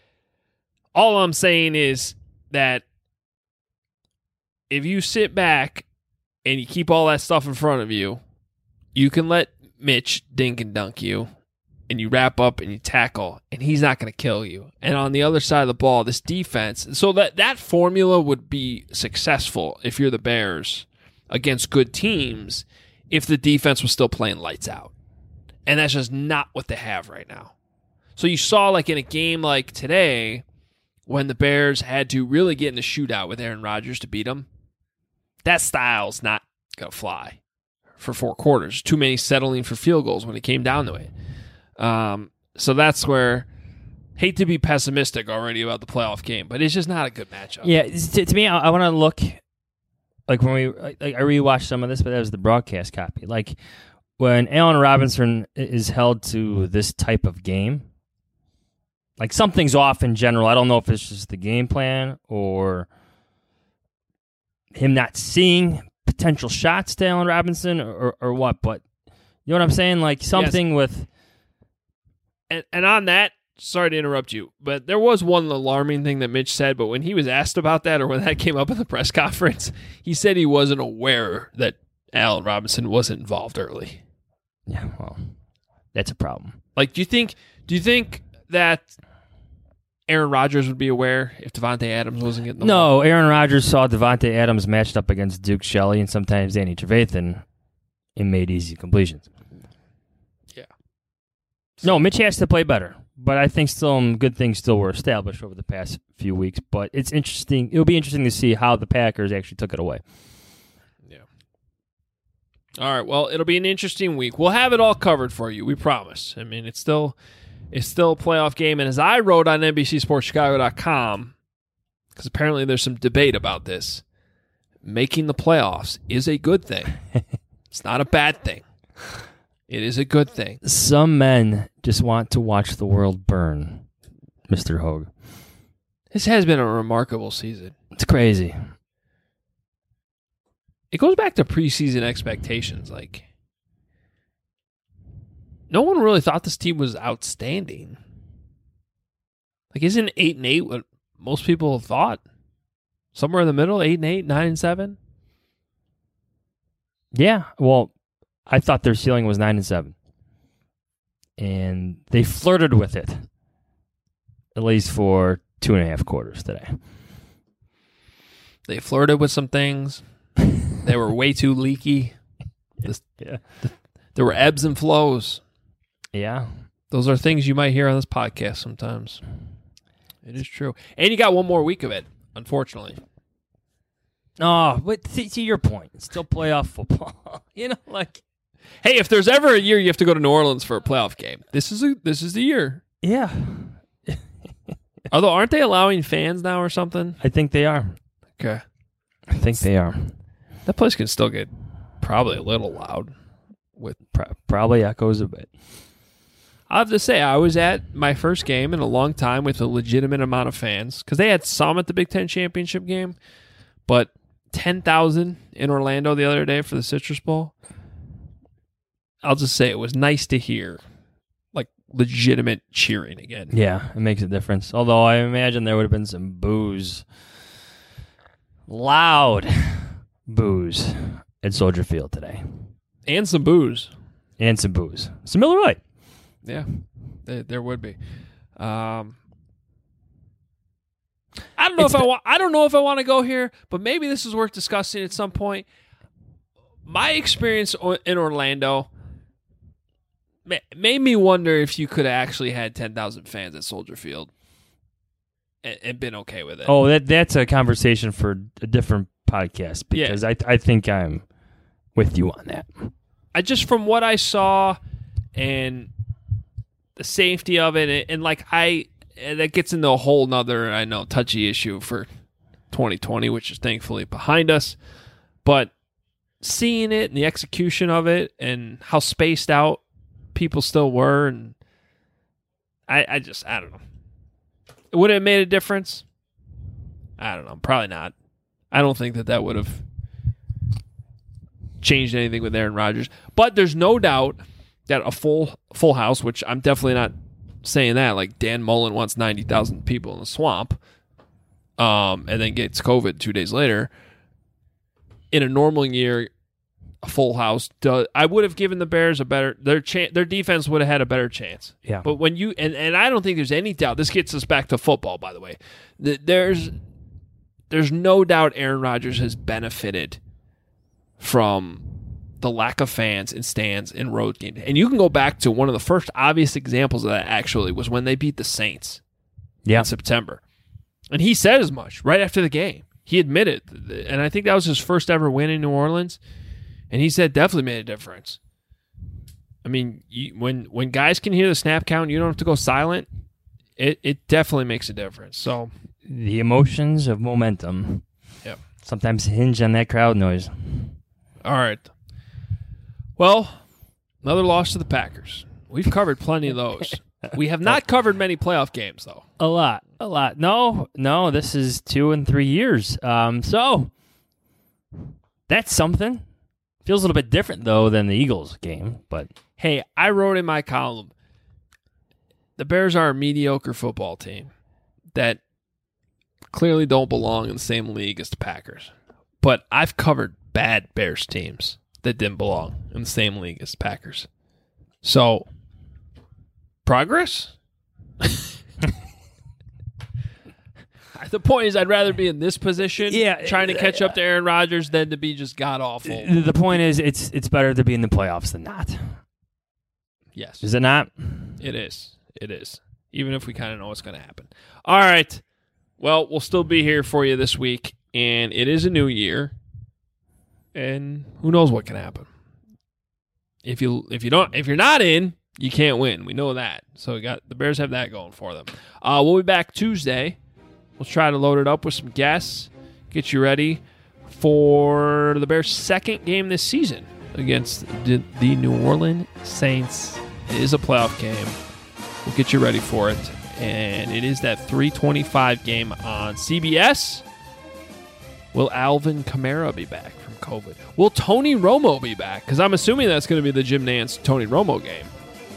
all I'm saying is that if you sit back and you keep all that stuff in front of you, you can let Mitch dink and dunk you, and you wrap up and you tackle, and he's not going to kill you. And on the other side of the ball, this defense, so that, that formula would be successful if you're the Bears against good teams if the defense was still playing lights out. And that's just not what they have right now. So you saw, like in a game like today, when the Bears had to really get in a shootout with Aaron Rodgers to beat them, that style's not going to fly for four quarters. Too many settling for field goals when it came down to it. Um, so that's where, hate to be pessimistic already about the playoff game, but it's just not a good matchup. Yeah, to, to me, I, I want to look, like when we, like I rewatched some of this, but that was the broadcast copy. Like when Allen Robinson is held to this type of game, like something's off in general. I don't know if it's just the game plan or him not seeing potential shots to Allen Robinson or, or what, but you know what I'm saying? Like something yes. with... And, and on that, sorry to interrupt you, but there was one alarming thing that Mitch said, but when he was asked about that or when that came up in the press conference, he said he wasn't aware that Allen Robinson wasn't involved early. Yeah, well, that's a problem. Like, do you think... Do you think that Aaron Rodgers would be aware if Devontae Adams wasn't getting the No, ball? Aaron Rodgers saw Devontae Adams matched up against Duke Shelley and sometimes Danny Trevathan and made easy completions. Yeah. No, Mitch has to play better, but I think some good things still were established over the past few weeks. But it's interesting. It'll be interesting to see how the Packers actually took it away. Yeah. All right, well, it'll be an interesting week. We'll have it all covered for you, we promise. I mean, it's still... It's still a playoff game, and as I wrote on N B C Sports Chicago dot com, because apparently there's some debate about this, making the playoffs is a good thing. It's not a bad thing. It is a good thing. Some men just want to watch the world burn, Mister Hogue. This has been a remarkable season. It's crazy. It goes back to preseason expectations, like... No one really thought this team was outstanding. Like, isn't eight and eight what most people thought? Somewhere in the middle, eight and eight, nine and seven. Yeah, well, I thought their ceiling was nine and seven, and they flirted with it, at least for two and a half quarters today. They flirted with some things. They were way too leaky. This, yeah, the, there were ebbs and flows. Yeah. Those are things you might hear on this podcast sometimes. It is true. And you got one more week of it, unfortunately. Oh, but see, see your point. It's still playoff football. You know, like, hey, if there's ever a year you have to go to New Orleans for a playoff game, this is a, this is the year. Yeah. Although, aren't they allowing fans now or something? I think they are. Okay. I think they are. That place can still get probably a little loud. With Pro- probably echoes a bit. I have to say, I was at my first game in a long time with a legitimate amount of fans because they had some at the Big Ten championship game, but ten thousand in Orlando the other day for the Citrus Bowl. I'll just say it was nice to hear, like, legitimate cheering again. Yeah, it makes a difference. Although I imagine there would have been some boos, loud boos at Soldier Field today. And some booze. And some booze. Some Miller Lite. Yeah, there, there would be. Um, I don't know It's if I the- want. I don't know if I want to go here, but maybe this is worth discussing at some point. My experience o- in Orlando ma- made me wonder if you could have actually had ten thousand fans at Soldier Field and, and been okay with it. Oh, that that's a conversation for a different podcast because I I think I'm with you on that. I just from what I saw and the safety of it, and, and like I, and that gets into a whole nother, I know, touchy issue for twenty twenty, which is thankfully behind us. But seeing it and the execution of it and how spaced out people still were, and I, I just, I don't know. Would it have made a difference? I don't know. Probably not. I don't think that that would have changed anything with Aaron Rodgers. But there's no doubt that a full full house, which I'm definitely not saying that, like Dan Mullen wants ninety thousand people in the swamp, um, and then gets COVID two days later. In a normal year, a full house, does, I would have given the Bears a better, their chance, their defense would have had a better chance. Yeah. But when you, and, and I don't think there's any doubt, this gets us back to football, by the way. There's, there's no doubt Aaron Rodgers has benefited from the lack of fans in stands in road games. And you can go back to one of the first obvious examples of that, actually, was when they beat the Saints yeah. in September. And he said as much right after the game. He admitted, and I think that was his first ever win in New Orleans, and he said definitely made a difference. I mean, you, when when guys can hear the snap count, you don't have to go silent, it, it definitely makes a difference. So the emotions of momentum Yep. sometimes hinge on that crowd noise. All right. Well, another loss to the Packers. We've covered plenty of those. We have not covered many playoff games, though. A lot, a lot. No, no, this is two and three years. Um, so that's something. Feels a little bit different, though, than the Eagles game. But hey, I wrote in my column, the Bears are a mediocre football team that clearly don't belong in the same league as the Packers. But I've covered bad Bears teams that didn't belong in the same league as the Packers. So, progress? The point is, I'd rather be in this position, Yeah, trying to catch up to Aaron Rodgers, than to be just god awful. the point is, it's it's better to be in the playoffs than not. Yes, Is it not? it is. It is. Even if we kind of know what's going to happen. All right. Well, we'll still be here for you this week, and it is a new year, and who knows what can happen. If you if you don't if you're not in, you can't win. We know that. So we got the Bears have that going for them. Uh, we'll be back Tuesday. We'll try to load it up with some guests, get you ready for the Bears' second game this season against the, the New Orleans Saints. It is a playoff game. We'll get you ready for it. And it is that three twenty-five game on C B S. Will Alvin Kamara be back from COVID? Will Tony Romo be back? Because I'm assuming that's going to be the Jim Nantz Tony Romo game.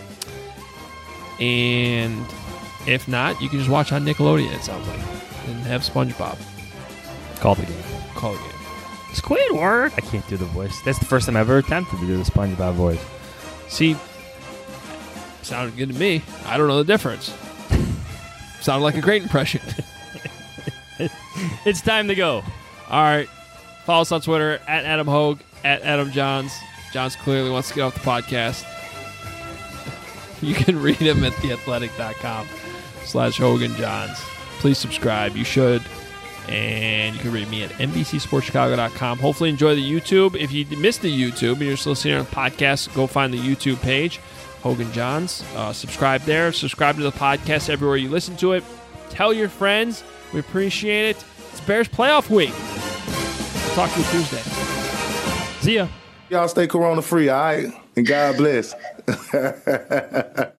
And if not, you can just watch on Nickelodeon, it sounds like, and have SpongeBob. Call the game. Call the game. Squidward. I can't do the voice. That's the first time I've ever attempted to do the SpongeBob voice. See, sounded good to me. I don't know the difference. Sounded like a great impression. It's time to go. All right. Follow us on Twitter, at Adam Hogue, at Adam Johns. Johns clearly wants to get off the podcast. You can read him at theathletic.com slash Hogan Johns. please subscribe. You should. And you can read me at N B C Sports Chicago dot com. Hopefully enjoy the YouTube. If you missed the YouTube and you're just listening on the podcast, go find the YouTube page, Hogan Johns. Uh, subscribe there. Subscribe to the podcast everywhere you listen to it. Tell your friends. We appreciate it. It's Bears playoff week. We'll talk to you Tuesday. See ya. Y'all stay corona free, all right? And God bless.